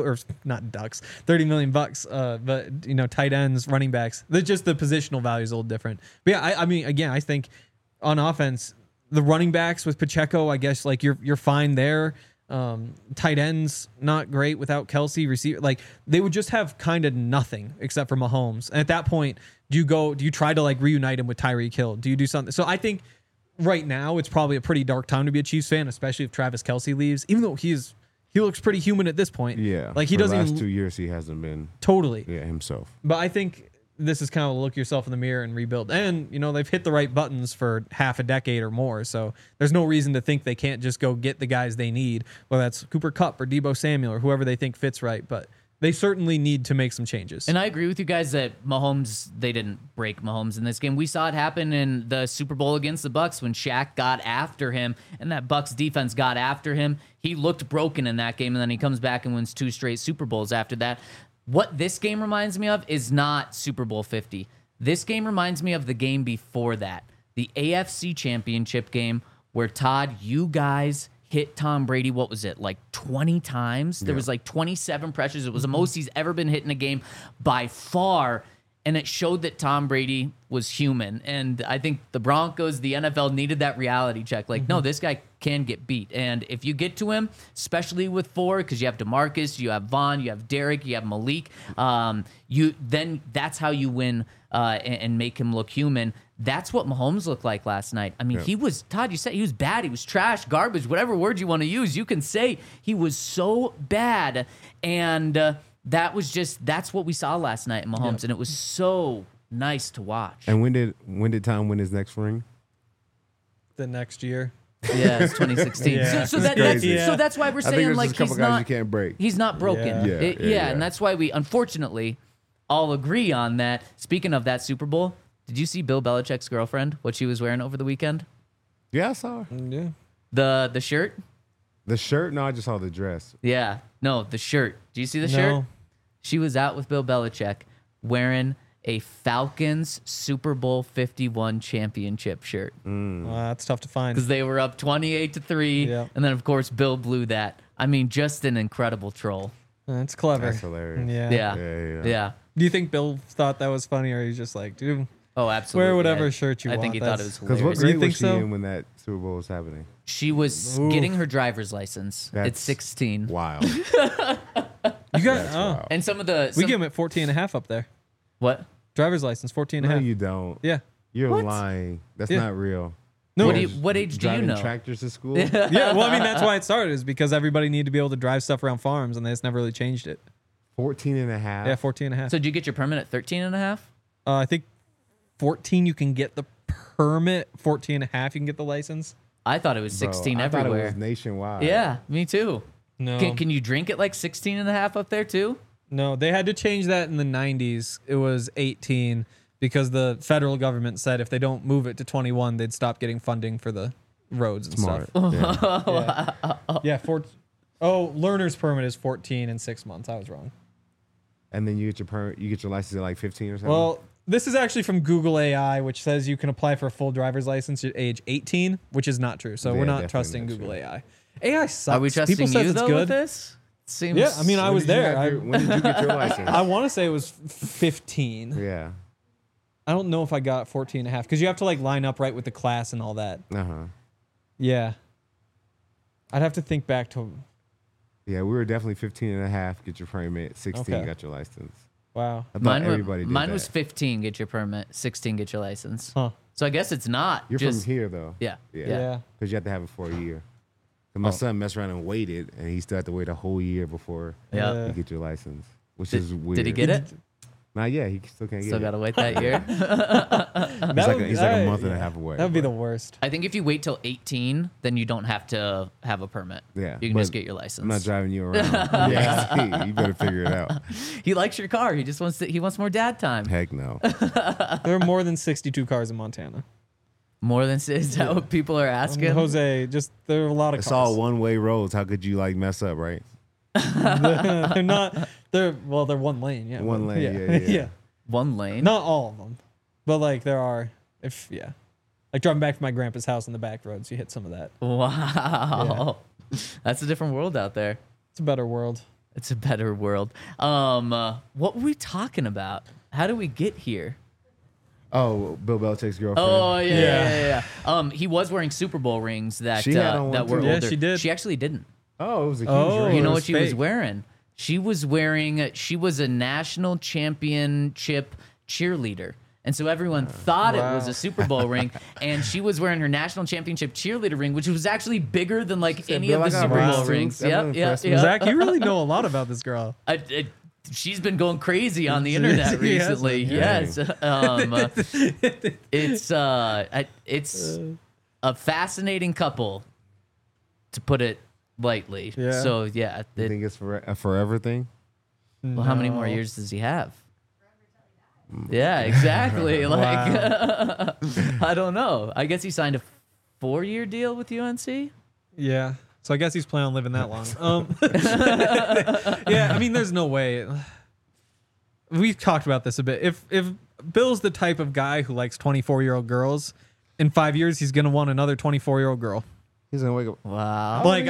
Speaker 2: $30 million bucks. But, tight ends, running backs, just the positional value is a little different. But yeah, I mean, again, I think on offense, the running backs with Pacheco, I guess, like, you're fine there. Tight ends, not great without Kelce. Receiver, like, they would just have kind of nothing except for Mahomes. And at that point, do you try to, like, reunite him with Tyreek Hill? Do you do something? So I think right now it's probably a pretty dark time to be a Chiefs fan, especially if Travis Kelce leaves, even though he looks pretty human at this point.
Speaker 3: Yeah.
Speaker 2: Like, he
Speaker 3: for
Speaker 2: doesn't
Speaker 3: the last
Speaker 2: even
Speaker 3: 2 years he hasn't been
Speaker 2: totally
Speaker 3: himself.
Speaker 2: But I think this is kind of look yourself in the mirror and rebuild. And, they've hit the right buttons for half a decade or more. So there's no reason to think they can't just go get the guys they need, whether that's Cooper Kupp or Deebo Samuel or whoever they think fits right. But they certainly need to make some changes.
Speaker 1: And I agree with you guys that they didn't break Mahomes in this game. We saw it happen in the Super Bowl against the Bucs when Shaq got after him and that Bucs defense got after him. He looked broken in that game, and then he comes back and wins 2 straight Super Bowls after that. What this game reminds me of is not Super Bowl 50. This game reminds me of the game before that, the AFC Championship game where, Todd, you guys hit Tom Brady, what was it, like 20 times? There was like 27 pressures. It was the most he's ever been hit in a game by far, and it showed that Tom Brady was human. And I think the Broncos, the NFL needed that reality check. Like, no, this guy can get beat. And if you get to him, especially with 4, because you have DeMarcus, you have Vaughn, you have Derek, you have Malik, then that's how you win and make him look human. That's what Mahomes looked like last night. I mean, he was, Todd, you said he was bad. He was trash, garbage, whatever word you want to use. You can say he was so bad. And that's what we saw last night in Mahomes. And it was so nice to watch.
Speaker 3: And when did Tom win his next ring?
Speaker 2: The next year.
Speaker 1: Yeah, it's 2016.
Speaker 2: Yeah.
Speaker 1: So that's why we're saying, like,
Speaker 3: he's not, you can't break.
Speaker 1: He's not broken.
Speaker 3: Yeah.
Speaker 1: And that's why we, unfortunately, all agree on that. Speaking of that Super Bowl, did you see Bill Belichick's girlfriend, what she was wearing over the weekend?
Speaker 3: Yeah, I saw her.
Speaker 2: Yeah.
Speaker 1: The shirt?
Speaker 3: The shirt? No, I just saw the dress.
Speaker 1: Yeah. No, the shirt. Do you see the shirt? She was out with Bill Belichick wearing a Falcons Super Bowl 51 championship shirt.
Speaker 2: Well, that's tough to find.
Speaker 1: Because they were up 28-3.
Speaker 2: Yeah.
Speaker 1: And then, of course, Bill blew that. I mean, just an incredible troll.
Speaker 2: That's clever.
Speaker 3: That's hilarious.
Speaker 1: Yeah.
Speaker 2: Do you think Bill thought that was funny, or he's just like, dude,
Speaker 1: Oh, absolutely.
Speaker 2: wear whatever shirt you
Speaker 1: I
Speaker 2: want?
Speaker 1: think he thought it was
Speaker 3: Because
Speaker 1: hilarious.
Speaker 3: what grade
Speaker 2: You think
Speaker 3: was she
Speaker 2: so?
Speaker 3: in when that Super Bowl was happening?
Speaker 1: She was getting her driver's license at
Speaker 3: That's
Speaker 1: 16.
Speaker 3: Wow.
Speaker 2: You got
Speaker 3: Wow.
Speaker 1: And some of
Speaker 2: we
Speaker 1: the...
Speaker 2: give him at 14 and a half up there.
Speaker 1: What?
Speaker 2: Driver's license, 14 and a
Speaker 3: No,
Speaker 2: half.
Speaker 3: you don't.
Speaker 2: Yeah.
Speaker 3: You're
Speaker 1: What?
Speaker 3: lying. That's
Speaker 2: Yeah.
Speaker 3: not real.
Speaker 2: No.
Speaker 1: What age do you
Speaker 3: Driving
Speaker 1: know?
Speaker 3: tractors to school?
Speaker 2: Yeah, well, I mean, that's why it started, is because everybody needed to be able to drive stuff around farms, and they just never really changed it.
Speaker 3: 14 and a half.
Speaker 2: Yeah, 14 and a half.
Speaker 1: So did you get your permit at 13 and a half?
Speaker 2: I think 14 you can get the permit, 14 and a half you can get the license.
Speaker 1: I thought it was
Speaker 3: Bro,
Speaker 1: 16
Speaker 3: I
Speaker 1: everywhere.
Speaker 3: thought it was nationwide.
Speaker 1: Yeah, me too.
Speaker 2: No.
Speaker 1: Can you drink at like 16 and a half up there too?
Speaker 2: No, they had to change that in the 90s. It was 18 because the federal government said if they don't move it to 21, they'd stop getting funding for the roads and
Speaker 3: Smart.
Speaker 2: stuff.
Speaker 3: Yeah.
Speaker 2: Yeah, learner's permit is 14 in 6 months. I was wrong.
Speaker 3: And then you get your permit. You get your license at like 15 or something.
Speaker 2: Well, this is actually from Google AI, which says you can apply for a full driver's license at age 18, which is not true. So
Speaker 3: Yeah,
Speaker 2: we're not
Speaker 3: definitely
Speaker 2: trusting
Speaker 3: not
Speaker 2: Google
Speaker 3: true.
Speaker 2: AI. AI sucks.
Speaker 1: Are we trusting
Speaker 2: People says
Speaker 1: you
Speaker 2: it's
Speaker 1: though
Speaker 2: good.
Speaker 1: with this? Seems.
Speaker 2: Yeah, I mean, I
Speaker 3: When
Speaker 2: was
Speaker 3: did you
Speaker 2: there.
Speaker 3: have when did you get your license?
Speaker 2: I want to say it was 15.
Speaker 3: Yeah.
Speaker 2: I don't know if I got 14 and a half because you have to like line up right with the class and all that.
Speaker 3: Uh huh.
Speaker 2: Yeah. I'd have to think back to,
Speaker 3: Yeah, we were definitely 15 and a half. Get your permit. 16
Speaker 2: Okay.
Speaker 3: got your license.
Speaker 2: wow.
Speaker 3: I thought
Speaker 1: mine
Speaker 3: everybody did
Speaker 1: mine
Speaker 3: that.
Speaker 1: was 15 get your permit, 16 get your license.
Speaker 2: Huh.
Speaker 1: So I guess it's not.
Speaker 3: You're
Speaker 1: just,
Speaker 3: from here though.
Speaker 1: Yeah.
Speaker 3: Yeah.
Speaker 2: Yeah.
Speaker 3: Because you have to have it for a year. And my son messed around and waited, and he still had to wait a whole year before
Speaker 1: Yeah.
Speaker 2: Yeah.
Speaker 3: you get your license, which
Speaker 1: Did,
Speaker 3: is weird.
Speaker 1: did he get it?
Speaker 3: Not yet. He still can't get
Speaker 1: Still
Speaker 3: it.
Speaker 1: got to wait that year.
Speaker 3: He's like a month and a half away.
Speaker 2: That'd be the
Speaker 3: but-
Speaker 2: worst.
Speaker 1: I think if you wait till 18, then you don't have to have a permit.
Speaker 3: Yeah,
Speaker 1: You can
Speaker 3: but
Speaker 1: just get your license.
Speaker 3: I'm not driving you around. Yeah, you better figure it out.
Speaker 1: He likes your car. He just wants he wants more dad time.
Speaker 3: Heck no.
Speaker 2: There are more than 62 cars in Montana.
Speaker 1: More than is that what people are asking?
Speaker 2: Jose, just there are a lot of
Speaker 3: It's
Speaker 2: cars.
Speaker 3: all one-way roads. How could you like mess up, right?
Speaker 2: They're not. They're one lane. Yeah.
Speaker 3: One lane, yeah.
Speaker 1: One lane.
Speaker 2: Not all of them, but like there are. Like driving back from my grandpa's house on the back roads, you hit some of that.
Speaker 1: Wow. That's a different world out there.
Speaker 2: It's a better world.
Speaker 1: It's a better world. What were we talking about? How do we get here?
Speaker 3: Oh, Bill Belichick's girlfriend.
Speaker 1: Oh yeah. He was wearing Super Bowl rings that
Speaker 3: She had on
Speaker 1: that
Speaker 3: one,
Speaker 1: were
Speaker 3: too.
Speaker 2: Yeah,
Speaker 1: older.
Speaker 2: she did.
Speaker 1: She actually didn't.
Speaker 3: Oh, it was a huge
Speaker 2: Oh,
Speaker 3: ring.
Speaker 1: You know
Speaker 2: it
Speaker 1: what
Speaker 2: was
Speaker 1: she was
Speaker 2: fake.
Speaker 1: wearing? She was a national championship cheerleader. And so everyone thought it was
Speaker 2: Wow.
Speaker 1: a Super Bowl ring, and she was wearing her national championship cheerleader ring, which was actually bigger than like any
Speaker 3: Bill,
Speaker 1: of the
Speaker 3: I got
Speaker 1: Super Bowl
Speaker 3: rings, too.
Speaker 1: rings.
Speaker 3: That
Speaker 1: Yep,
Speaker 3: wouldn't
Speaker 1: yep,
Speaker 3: impress me.
Speaker 1: yep.
Speaker 2: Zach, you really know a lot about this girl.
Speaker 1: She's been going crazy on the internet
Speaker 2: She has
Speaker 1: recently.
Speaker 2: been,
Speaker 1: Yes, it's a fascinating couple, to put it lightly.
Speaker 2: Yeah.
Speaker 1: So yeah,
Speaker 3: You think it's a forever thing?
Speaker 1: well, how many more
Speaker 2: No.
Speaker 1: years does he have? Yeah, exactly. Like, I don't know. I guess he signed a 4-year deal with UNC.
Speaker 2: Yeah. So I guess he's planning on living that long. Yeah, I mean, there's no way. We've talked about this a bit. If Bill's the type of guy who likes 24-year-old girls, in 5 years he's gonna want another 24-year-old girl.
Speaker 3: He's gonna wake up.
Speaker 1: Wow.
Speaker 2: Like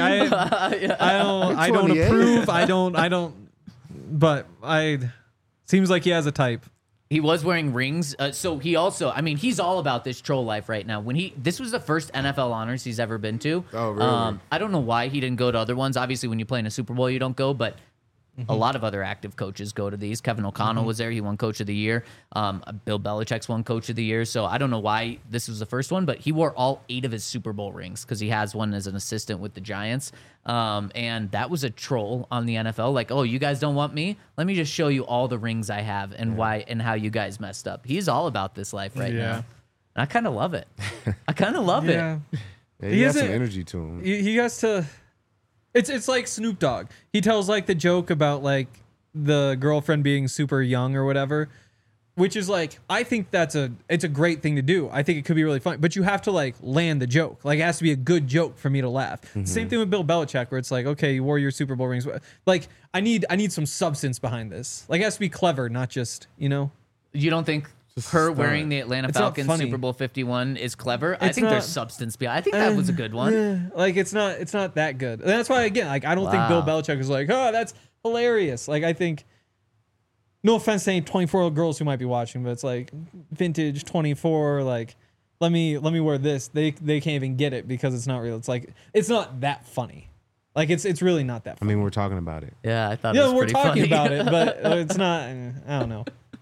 Speaker 2: I don't
Speaker 3: 28.
Speaker 2: approve. I don't. But seems like he has a type.
Speaker 1: He was wearing rings. So he also, I mean, he's all about this troll life right now. This was the first NFL honors he's ever been to.
Speaker 3: Oh, really?
Speaker 1: I don't know why he didn't go to other ones. Obviously, when you play in a Super Bowl, you don't go, but a lot of other active coaches go to these. Kevin O'Connell was there. He won Coach of the Year. Bill Belichick's won Coach of the Year. So I don't know why this was the first one, but he wore all 8 of his Super Bowl rings because he has one as an assistant with the Giants. And that was a troll on the NFL. Like, oh, you guys don't want me? Let me just show you all the rings I have and why and how you guys messed up. He's all about this life right
Speaker 2: Yeah.
Speaker 1: now. And I kind of love it. I kind of love it.
Speaker 3: Yeah,
Speaker 2: He
Speaker 3: he has some
Speaker 2: isn't-
Speaker 3: energy to him.
Speaker 2: He has to. It's like Snoop Dogg. He tells like the joke about like the girlfriend being super young or whatever, which is like I think it's a great thing to do. I think it could be really fun, but you have to like land the joke. Like it has to be a good joke for me to laugh. Same thing with Bill Belichick, where it's like, okay, you wore your Super Bowl rings. Like I need some substance behind this. Like it has to be clever, not just
Speaker 1: You don't think her wearing the Atlanta
Speaker 2: It's not
Speaker 1: Falcons
Speaker 2: funny.
Speaker 1: Super Bowl 51 is clever? I
Speaker 2: It's
Speaker 1: think there's
Speaker 2: not-
Speaker 1: substance behind. I think that was a good one.
Speaker 2: Like it's not that good. And that's why again, like I don't think Bill
Speaker 1: Wow.
Speaker 2: Belichick is like, oh, that's hilarious. Like I think, no offense to any 24-year-old girls who might be watching, but it's like vintage 24. Like let me wear this. They can't even get it because it's not real. It's like it's not that funny. Like it's really not that
Speaker 3: I
Speaker 2: funny.
Speaker 3: mean, we're talking about it.
Speaker 1: Yeah, I thought it
Speaker 2: Yeah,
Speaker 1: was
Speaker 2: we're
Speaker 1: pretty
Speaker 2: talking
Speaker 1: funny.
Speaker 2: about it, but it's not. I don't know.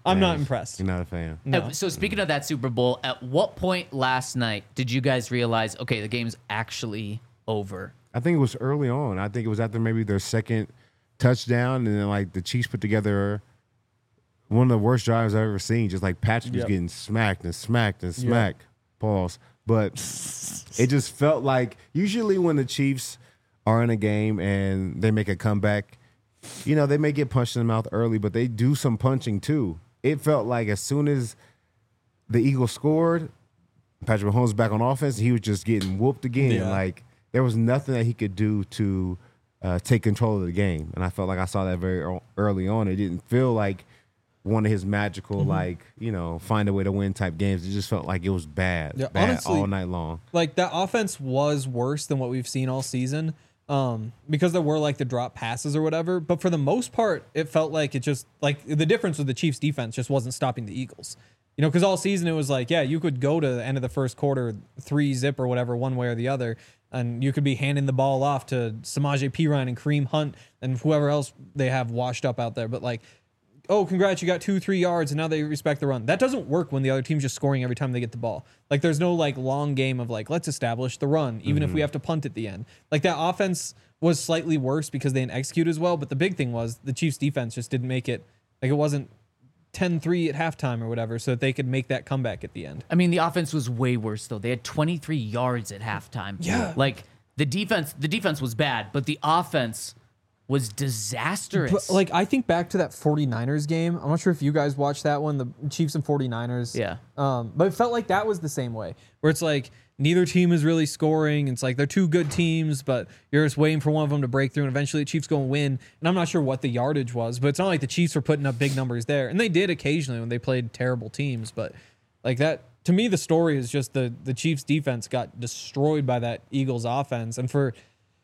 Speaker 2: I'm not impressed.
Speaker 3: You're not a fan.
Speaker 2: No.
Speaker 1: So speaking of that Super Bowl, at what point last night did you guys realize, okay, the game's actually over?
Speaker 3: I think it was early on. I think it was after maybe their second touchdown, and then like the Chiefs put together one of the worst drives I've ever seen. Just like Patrick was getting smacked and smacked and smacked. Pause. But it just felt like usually when the Chiefs are in a game and they make a comeback, you know, they may get punched in the mouth early, but they do some punching too. It felt like as soon as the Eagles scored, Patrick Mahomes back on offense, he was just getting whooped again.
Speaker 2: Yeah.
Speaker 3: Like there was nothing that he could do to take control of the game. And I felt like I saw that very early on. It didn't feel like one of his magical, like, you know, find a way to win type games. It just felt like it was bad,
Speaker 2: Yeah,
Speaker 3: bad
Speaker 2: honestly,
Speaker 3: all night long.
Speaker 2: Like that offense was worse than what we've seen all season, because there were like the drop passes or whatever. But for the most part, it felt like it just like the difference with the Chiefs defense just wasn't stopping the Eagles. You know, because all season it was like, yeah, you could go to the end of the first quarter 3-zip or whatever, one way or the other, and you could be handing the ball off to Samaje Perine and Kareem Hunt and whoever else they have washed up out there. But like, oh, congrats, you got 2-3 yards, and now they respect the run. That doesn't work when the other team's just scoring every time they get the ball. Like, there's no, like, long game of, like, let's establish the run, even if we have to punt at the end. Like, that offense was slightly worse because they didn't execute as well, but the big thing was the Chiefs' defense just didn't make it. Like, it wasn't 10-3 at halftime or whatever, so that they could make that comeback at the end.
Speaker 1: I mean, the offense was way worse, though. They had 23 yards at halftime.
Speaker 2: Yeah.
Speaker 1: Like, the defense was bad, but the offense was disastrous.
Speaker 2: But, like, I think back to that 49ers game. I'm not sure if you guys watched that one, the Chiefs and 49ers.
Speaker 1: Yeah.
Speaker 2: But it felt like that was the same way, where it's like neither team is really scoring. It's like they're two good teams, but you're just waiting for one of them to break through, and eventually the Chiefs go and win. And I'm not sure what the yardage was, but it's not like the Chiefs were putting up big numbers there. And they did occasionally when they played terrible teams. But like that, to me, the story is just the Chiefs defense got destroyed by that Eagles offense. And for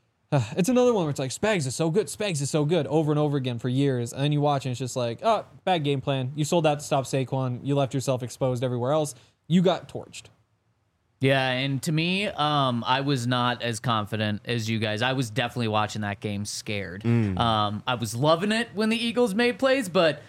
Speaker 2: it's another one where it's like Spags is so good over and over again for years, and then you watch and it's just like, oh, bad game plan. You sold out to stop Saquon. You left yourself exposed everywhere else. You got torched.
Speaker 1: Yeah, and to me, I was not as confident as you guys. I was definitely watching that game scared. I was loving it when the Eagles made plays, but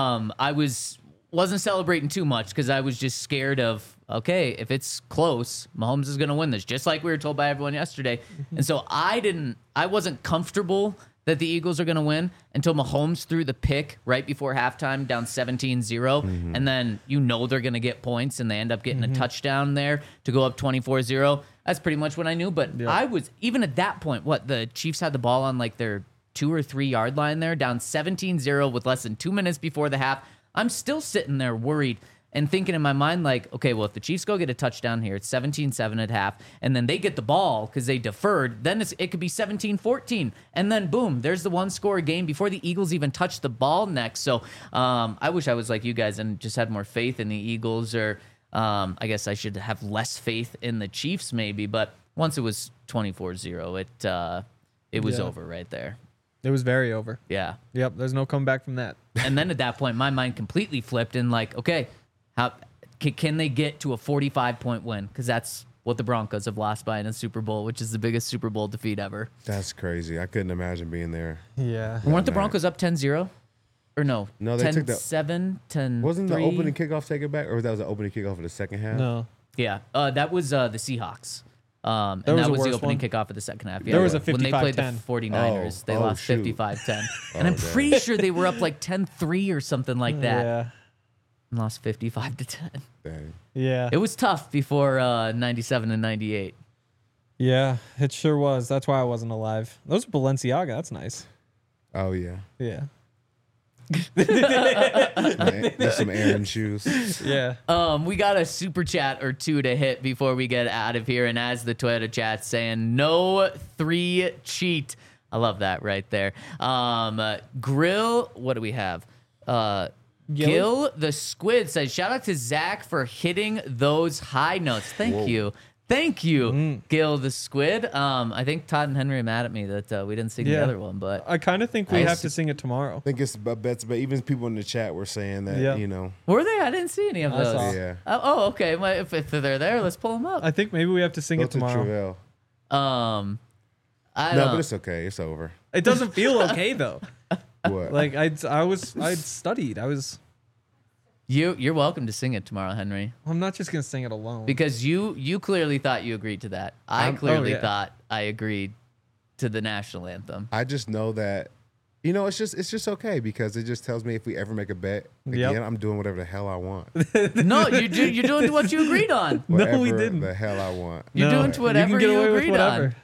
Speaker 1: I wasn't celebrating too much because I was just scared of, okay, if it's close, Mahomes is going to win this, just like we were told by everyone yesterday. And so I wasn't comfortable that the Eagles are going to win until Mahomes threw the pick right before halftime down 17-0. And then you know they're going to get points, and they end up getting a touchdown there to go up 24-0. That's pretty much what I knew. But I was, even at that point, the Chiefs had the ball on like their 2 or 3 yard line there, down 17-0 with less than 2 minutes before the half. I'm still sitting there worried and thinking in my mind, like, okay, well, if the Chiefs go get a touchdown here, it's 17-7 at half, and then they get the ball because they deferred, then it could be 17-14. And then, boom, there's the one-score game before the Eagles even touch the ball next. So I wish I was like you guys and just had more faith in the Eagles, or I guess I should have less faith in the Chiefs maybe. But once it was 24-0, it was over right there.
Speaker 2: It was very over.
Speaker 1: Yeah.
Speaker 2: Yep, there's no comeback from that.
Speaker 1: And then at that point, my mind completely flipped and like, okay, how can they get to a 45-point win? Because that's what the Broncos have lost by in a Super Bowl, which is the biggest Super Bowl defeat ever.
Speaker 3: That's crazy. I couldn't imagine being there.
Speaker 2: Yeah.
Speaker 1: Weren't the Broncos up 10-0? Or no?
Speaker 3: No, they took the
Speaker 1: 10-7, 10-3.
Speaker 3: Wasn't the opening kickoff taken back, or that was the opening kickoff of the second half?
Speaker 2: No.
Speaker 1: Yeah, that was the Seahawks. And
Speaker 2: There was
Speaker 1: that
Speaker 2: a
Speaker 1: was the
Speaker 2: worse
Speaker 1: opening
Speaker 2: one?
Speaker 1: kickoff of the second half. Yeah,
Speaker 2: There was a
Speaker 1: when they played the
Speaker 2: 55-10.
Speaker 1: 49ers, they
Speaker 3: Oh,
Speaker 1: lost
Speaker 3: shoot.
Speaker 1: 55-10. And I'm pretty sure they were up like 10-3 or something like that.
Speaker 2: Yeah.
Speaker 1: And lost 55-10.
Speaker 3: Dang.
Speaker 2: Yeah.
Speaker 1: It was tough before 97 and 98.
Speaker 2: Yeah, it sure was. That's why I wasn't alive. Those are Balenciaga. That's nice.
Speaker 3: Oh yeah.
Speaker 2: Yeah.
Speaker 3: There's some Aaron shoes.
Speaker 2: Yeah.
Speaker 1: We got a super chat or two to hit before we get out of here. And as the Toyota chat's saying, no 3 cheat. I love that right there. Grill, what do we have? Gil the Squid says, shout out to Zach for hitting those high notes. Thank you. Thank you, Gil the Squid. I think Todd and Henry are mad at me that we didn't sing the other one, but
Speaker 2: I kind of think we
Speaker 1: I
Speaker 2: have to sing it tomorrow.
Speaker 3: I think it's bets, but even people in the chat were saying that,
Speaker 2: Yeah.
Speaker 3: you know.
Speaker 1: were they? I didn't see any of
Speaker 2: I
Speaker 1: those.
Speaker 2: saw.
Speaker 3: Yeah.
Speaker 1: Oh, okay. Well, if they're there, let's pull them up.
Speaker 2: I think maybe we have to sing
Speaker 3: Go
Speaker 2: it
Speaker 3: to
Speaker 2: tomorrow.
Speaker 3: Travell.
Speaker 1: I
Speaker 3: No,
Speaker 1: don't.
Speaker 3: but it's okay. It's over.
Speaker 2: It doesn't feel okay though.
Speaker 3: What?
Speaker 2: Like I'd studied. I was
Speaker 1: You're welcome to sing it tomorrow, Henry,
Speaker 2: I'm not just gonna sing it alone.
Speaker 1: because you clearly thought you agreed to that. I clearly thought I agreed to the national anthem.
Speaker 3: I just know that, it's just okay because it just tells me if we ever make a bet again, I'm doing whatever the hell I want.
Speaker 1: No, you're doing what you agreed on.
Speaker 2: No, we
Speaker 3: Whatever
Speaker 2: didn't.
Speaker 3: The hell I want.
Speaker 1: You're doing whatever
Speaker 2: you can get
Speaker 1: you
Speaker 2: away with
Speaker 1: agreed
Speaker 2: whatever.
Speaker 1: on.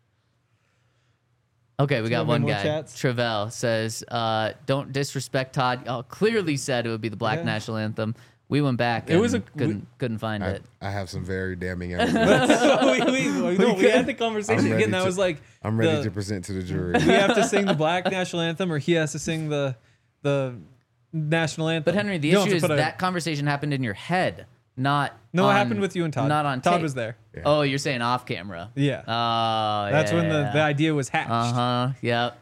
Speaker 1: Okay, we got
Speaker 2: have
Speaker 1: one
Speaker 2: more
Speaker 1: guy.
Speaker 2: chats?
Speaker 1: Travell says, "Don't disrespect Todd." Oh, clearly said it would be the Black
Speaker 2: Yeah.
Speaker 1: national anthem. We went back.
Speaker 2: It
Speaker 1: And
Speaker 2: was a-
Speaker 1: couldn't find it.
Speaker 3: I have some very damning evidence.
Speaker 2: we had the conversation
Speaker 3: I'm ready
Speaker 2: again. That
Speaker 3: to-
Speaker 2: was like,
Speaker 3: I'm ready to present to the jury.
Speaker 2: we have to sing the Black national anthem, or he has to sing the national anthem.
Speaker 1: But Henry, the
Speaker 2: You don't
Speaker 1: issue
Speaker 2: have
Speaker 1: is
Speaker 2: to put a-
Speaker 1: that conversation happened in your head, not.
Speaker 2: No,
Speaker 1: on,
Speaker 2: it happened with you and Todd.
Speaker 1: Not on
Speaker 2: Todd
Speaker 1: tape.
Speaker 2: was there.
Speaker 3: Yeah.
Speaker 1: Oh, you're saying off camera.
Speaker 2: Yeah.
Speaker 1: Oh,
Speaker 2: That's when the idea was hatched.
Speaker 1: Yep.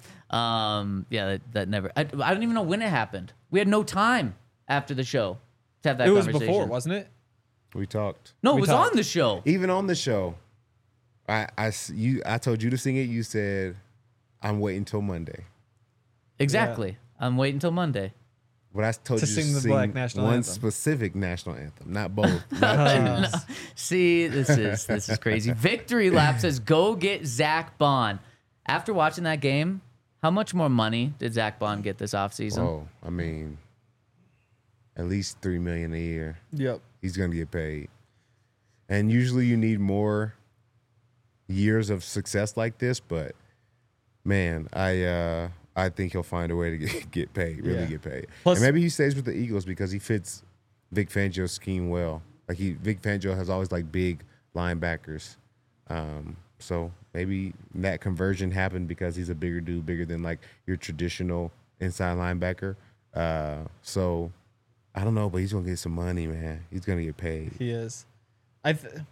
Speaker 1: Yeah, that never. I don't even know when it happened. We had no time after the show to have that
Speaker 2: It was
Speaker 1: conversation.
Speaker 2: before, wasn't it?
Speaker 3: We talked.
Speaker 1: No, it
Speaker 2: we
Speaker 1: was
Speaker 2: talked.
Speaker 1: on the show.
Speaker 3: Even on the show, I told you to sing it. You said, I'm waiting till Monday.
Speaker 1: Exactly. I'm waiting until Monday.
Speaker 3: But I told
Speaker 2: To
Speaker 3: you
Speaker 2: sing
Speaker 3: to
Speaker 2: the
Speaker 3: sing
Speaker 2: Black national
Speaker 3: one
Speaker 2: anthem.
Speaker 3: specific national anthem, not both. Not two.
Speaker 1: See, this is crazy. Victory Lap says, "Go get Zach Bond." After watching that game, how much more money did Zach Bond get this offseason?
Speaker 3: Oh, I mean, at least $3 million a year.
Speaker 2: Yep.
Speaker 3: He's gonna get paid. And usually you need more years of success like this, but man, I think he'll find a way to get paid, really
Speaker 2: Yeah.
Speaker 3: get paid.
Speaker 2: Plus-
Speaker 3: and maybe he stays with the Eagles because he fits Vic Fangio's scheme well. Like Vic Fangio has always like big linebackers. So maybe that conversion happened because he's a bigger dude, bigger than like your traditional inside linebacker. So I don't know, but he's gonna get some money, man. He's gonna get paid.
Speaker 2: He is. I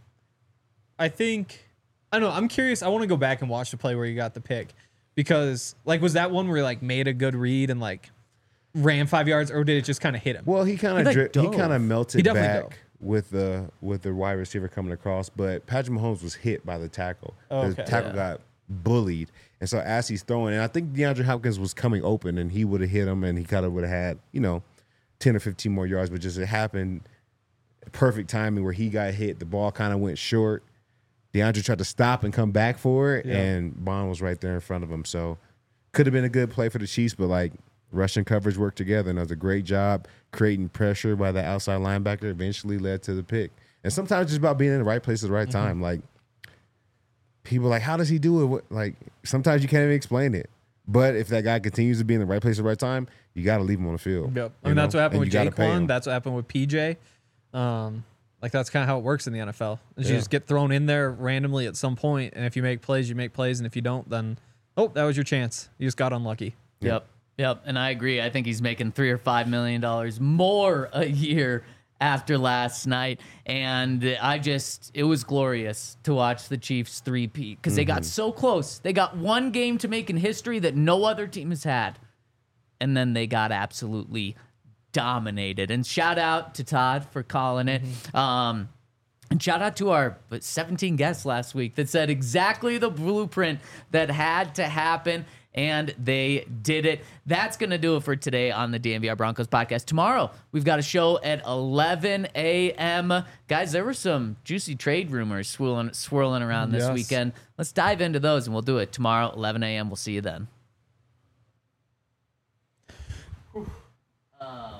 Speaker 2: think I don't know. I'm curious. I want to go back and watch the play where you got the pick, because like was that one where he like made a good read and like ran 5 yards, or did it just kind of hit him?
Speaker 3: Well, he kind
Speaker 1: like,
Speaker 3: of
Speaker 1: dove.
Speaker 3: melted
Speaker 2: He definitely
Speaker 3: back
Speaker 2: dove.
Speaker 3: with the wide receiver coming across, but Patrick Mahomes was hit by the tackle.
Speaker 2: Oh,
Speaker 3: The
Speaker 2: okay.
Speaker 3: tackle got bullied, and so as he's throwing, and I think DeAndre Hopkins was coming open, and he would have hit him, and he kind of would have had 10 or 15 more yards, but just it happened perfect timing where he got hit. The ball kind of went short. DeAndre tried to stop and come back for it,
Speaker 2: Yeah.
Speaker 3: and Bond was right there in front of him. So could have been a good play for the Chiefs, but like rushing coverage worked together, and it was a great job creating pressure by the outside linebacker. Eventually led to the pick. And sometimes it's just about being in the right place at the right time. Like people are like, how does he do it? Like sometimes you can't even explain it. But if that guy continues to be in the right place at the right time, you got to leave him on the field.
Speaker 2: Yep. I
Speaker 3: You
Speaker 2: mean,
Speaker 3: know?
Speaker 2: that's what happened
Speaker 3: And
Speaker 2: with
Speaker 3: you gotta pay
Speaker 2: Jaquan.
Speaker 3: him.
Speaker 2: That's what happened with PJ. Like that's kind of how it works in the NFL. Is you
Speaker 3: Yeah.
Speaker 2: just get thrown in there randomly at some point, and if you make plays, you make plays, and if you don't, then that was your chance. You just got unlucky.
Speaker 1: Yep. And I agree. I think he's making $3 or $5 million more a year after last night. And it was glorious to watch the Chiefs three-peat because they got so close. They got one game to make in history that no other team has had. And then they got absolutely dominated. And shout out to Todd for calling it. And shout out to our 17 guests last week that said exactly the blueprint that had to happen, and they did it. That's going to do it for today on the DNVR Broncos podcast. Tomorrow, we've got a show at 11 a.m. Guys, there were some juicy trade rumors swirling around this
Speaker 2: Yes.
Speaker 1: weekend. Let's dive into those, and we'll do it tomorrow, 11 a.m. We'll see you then.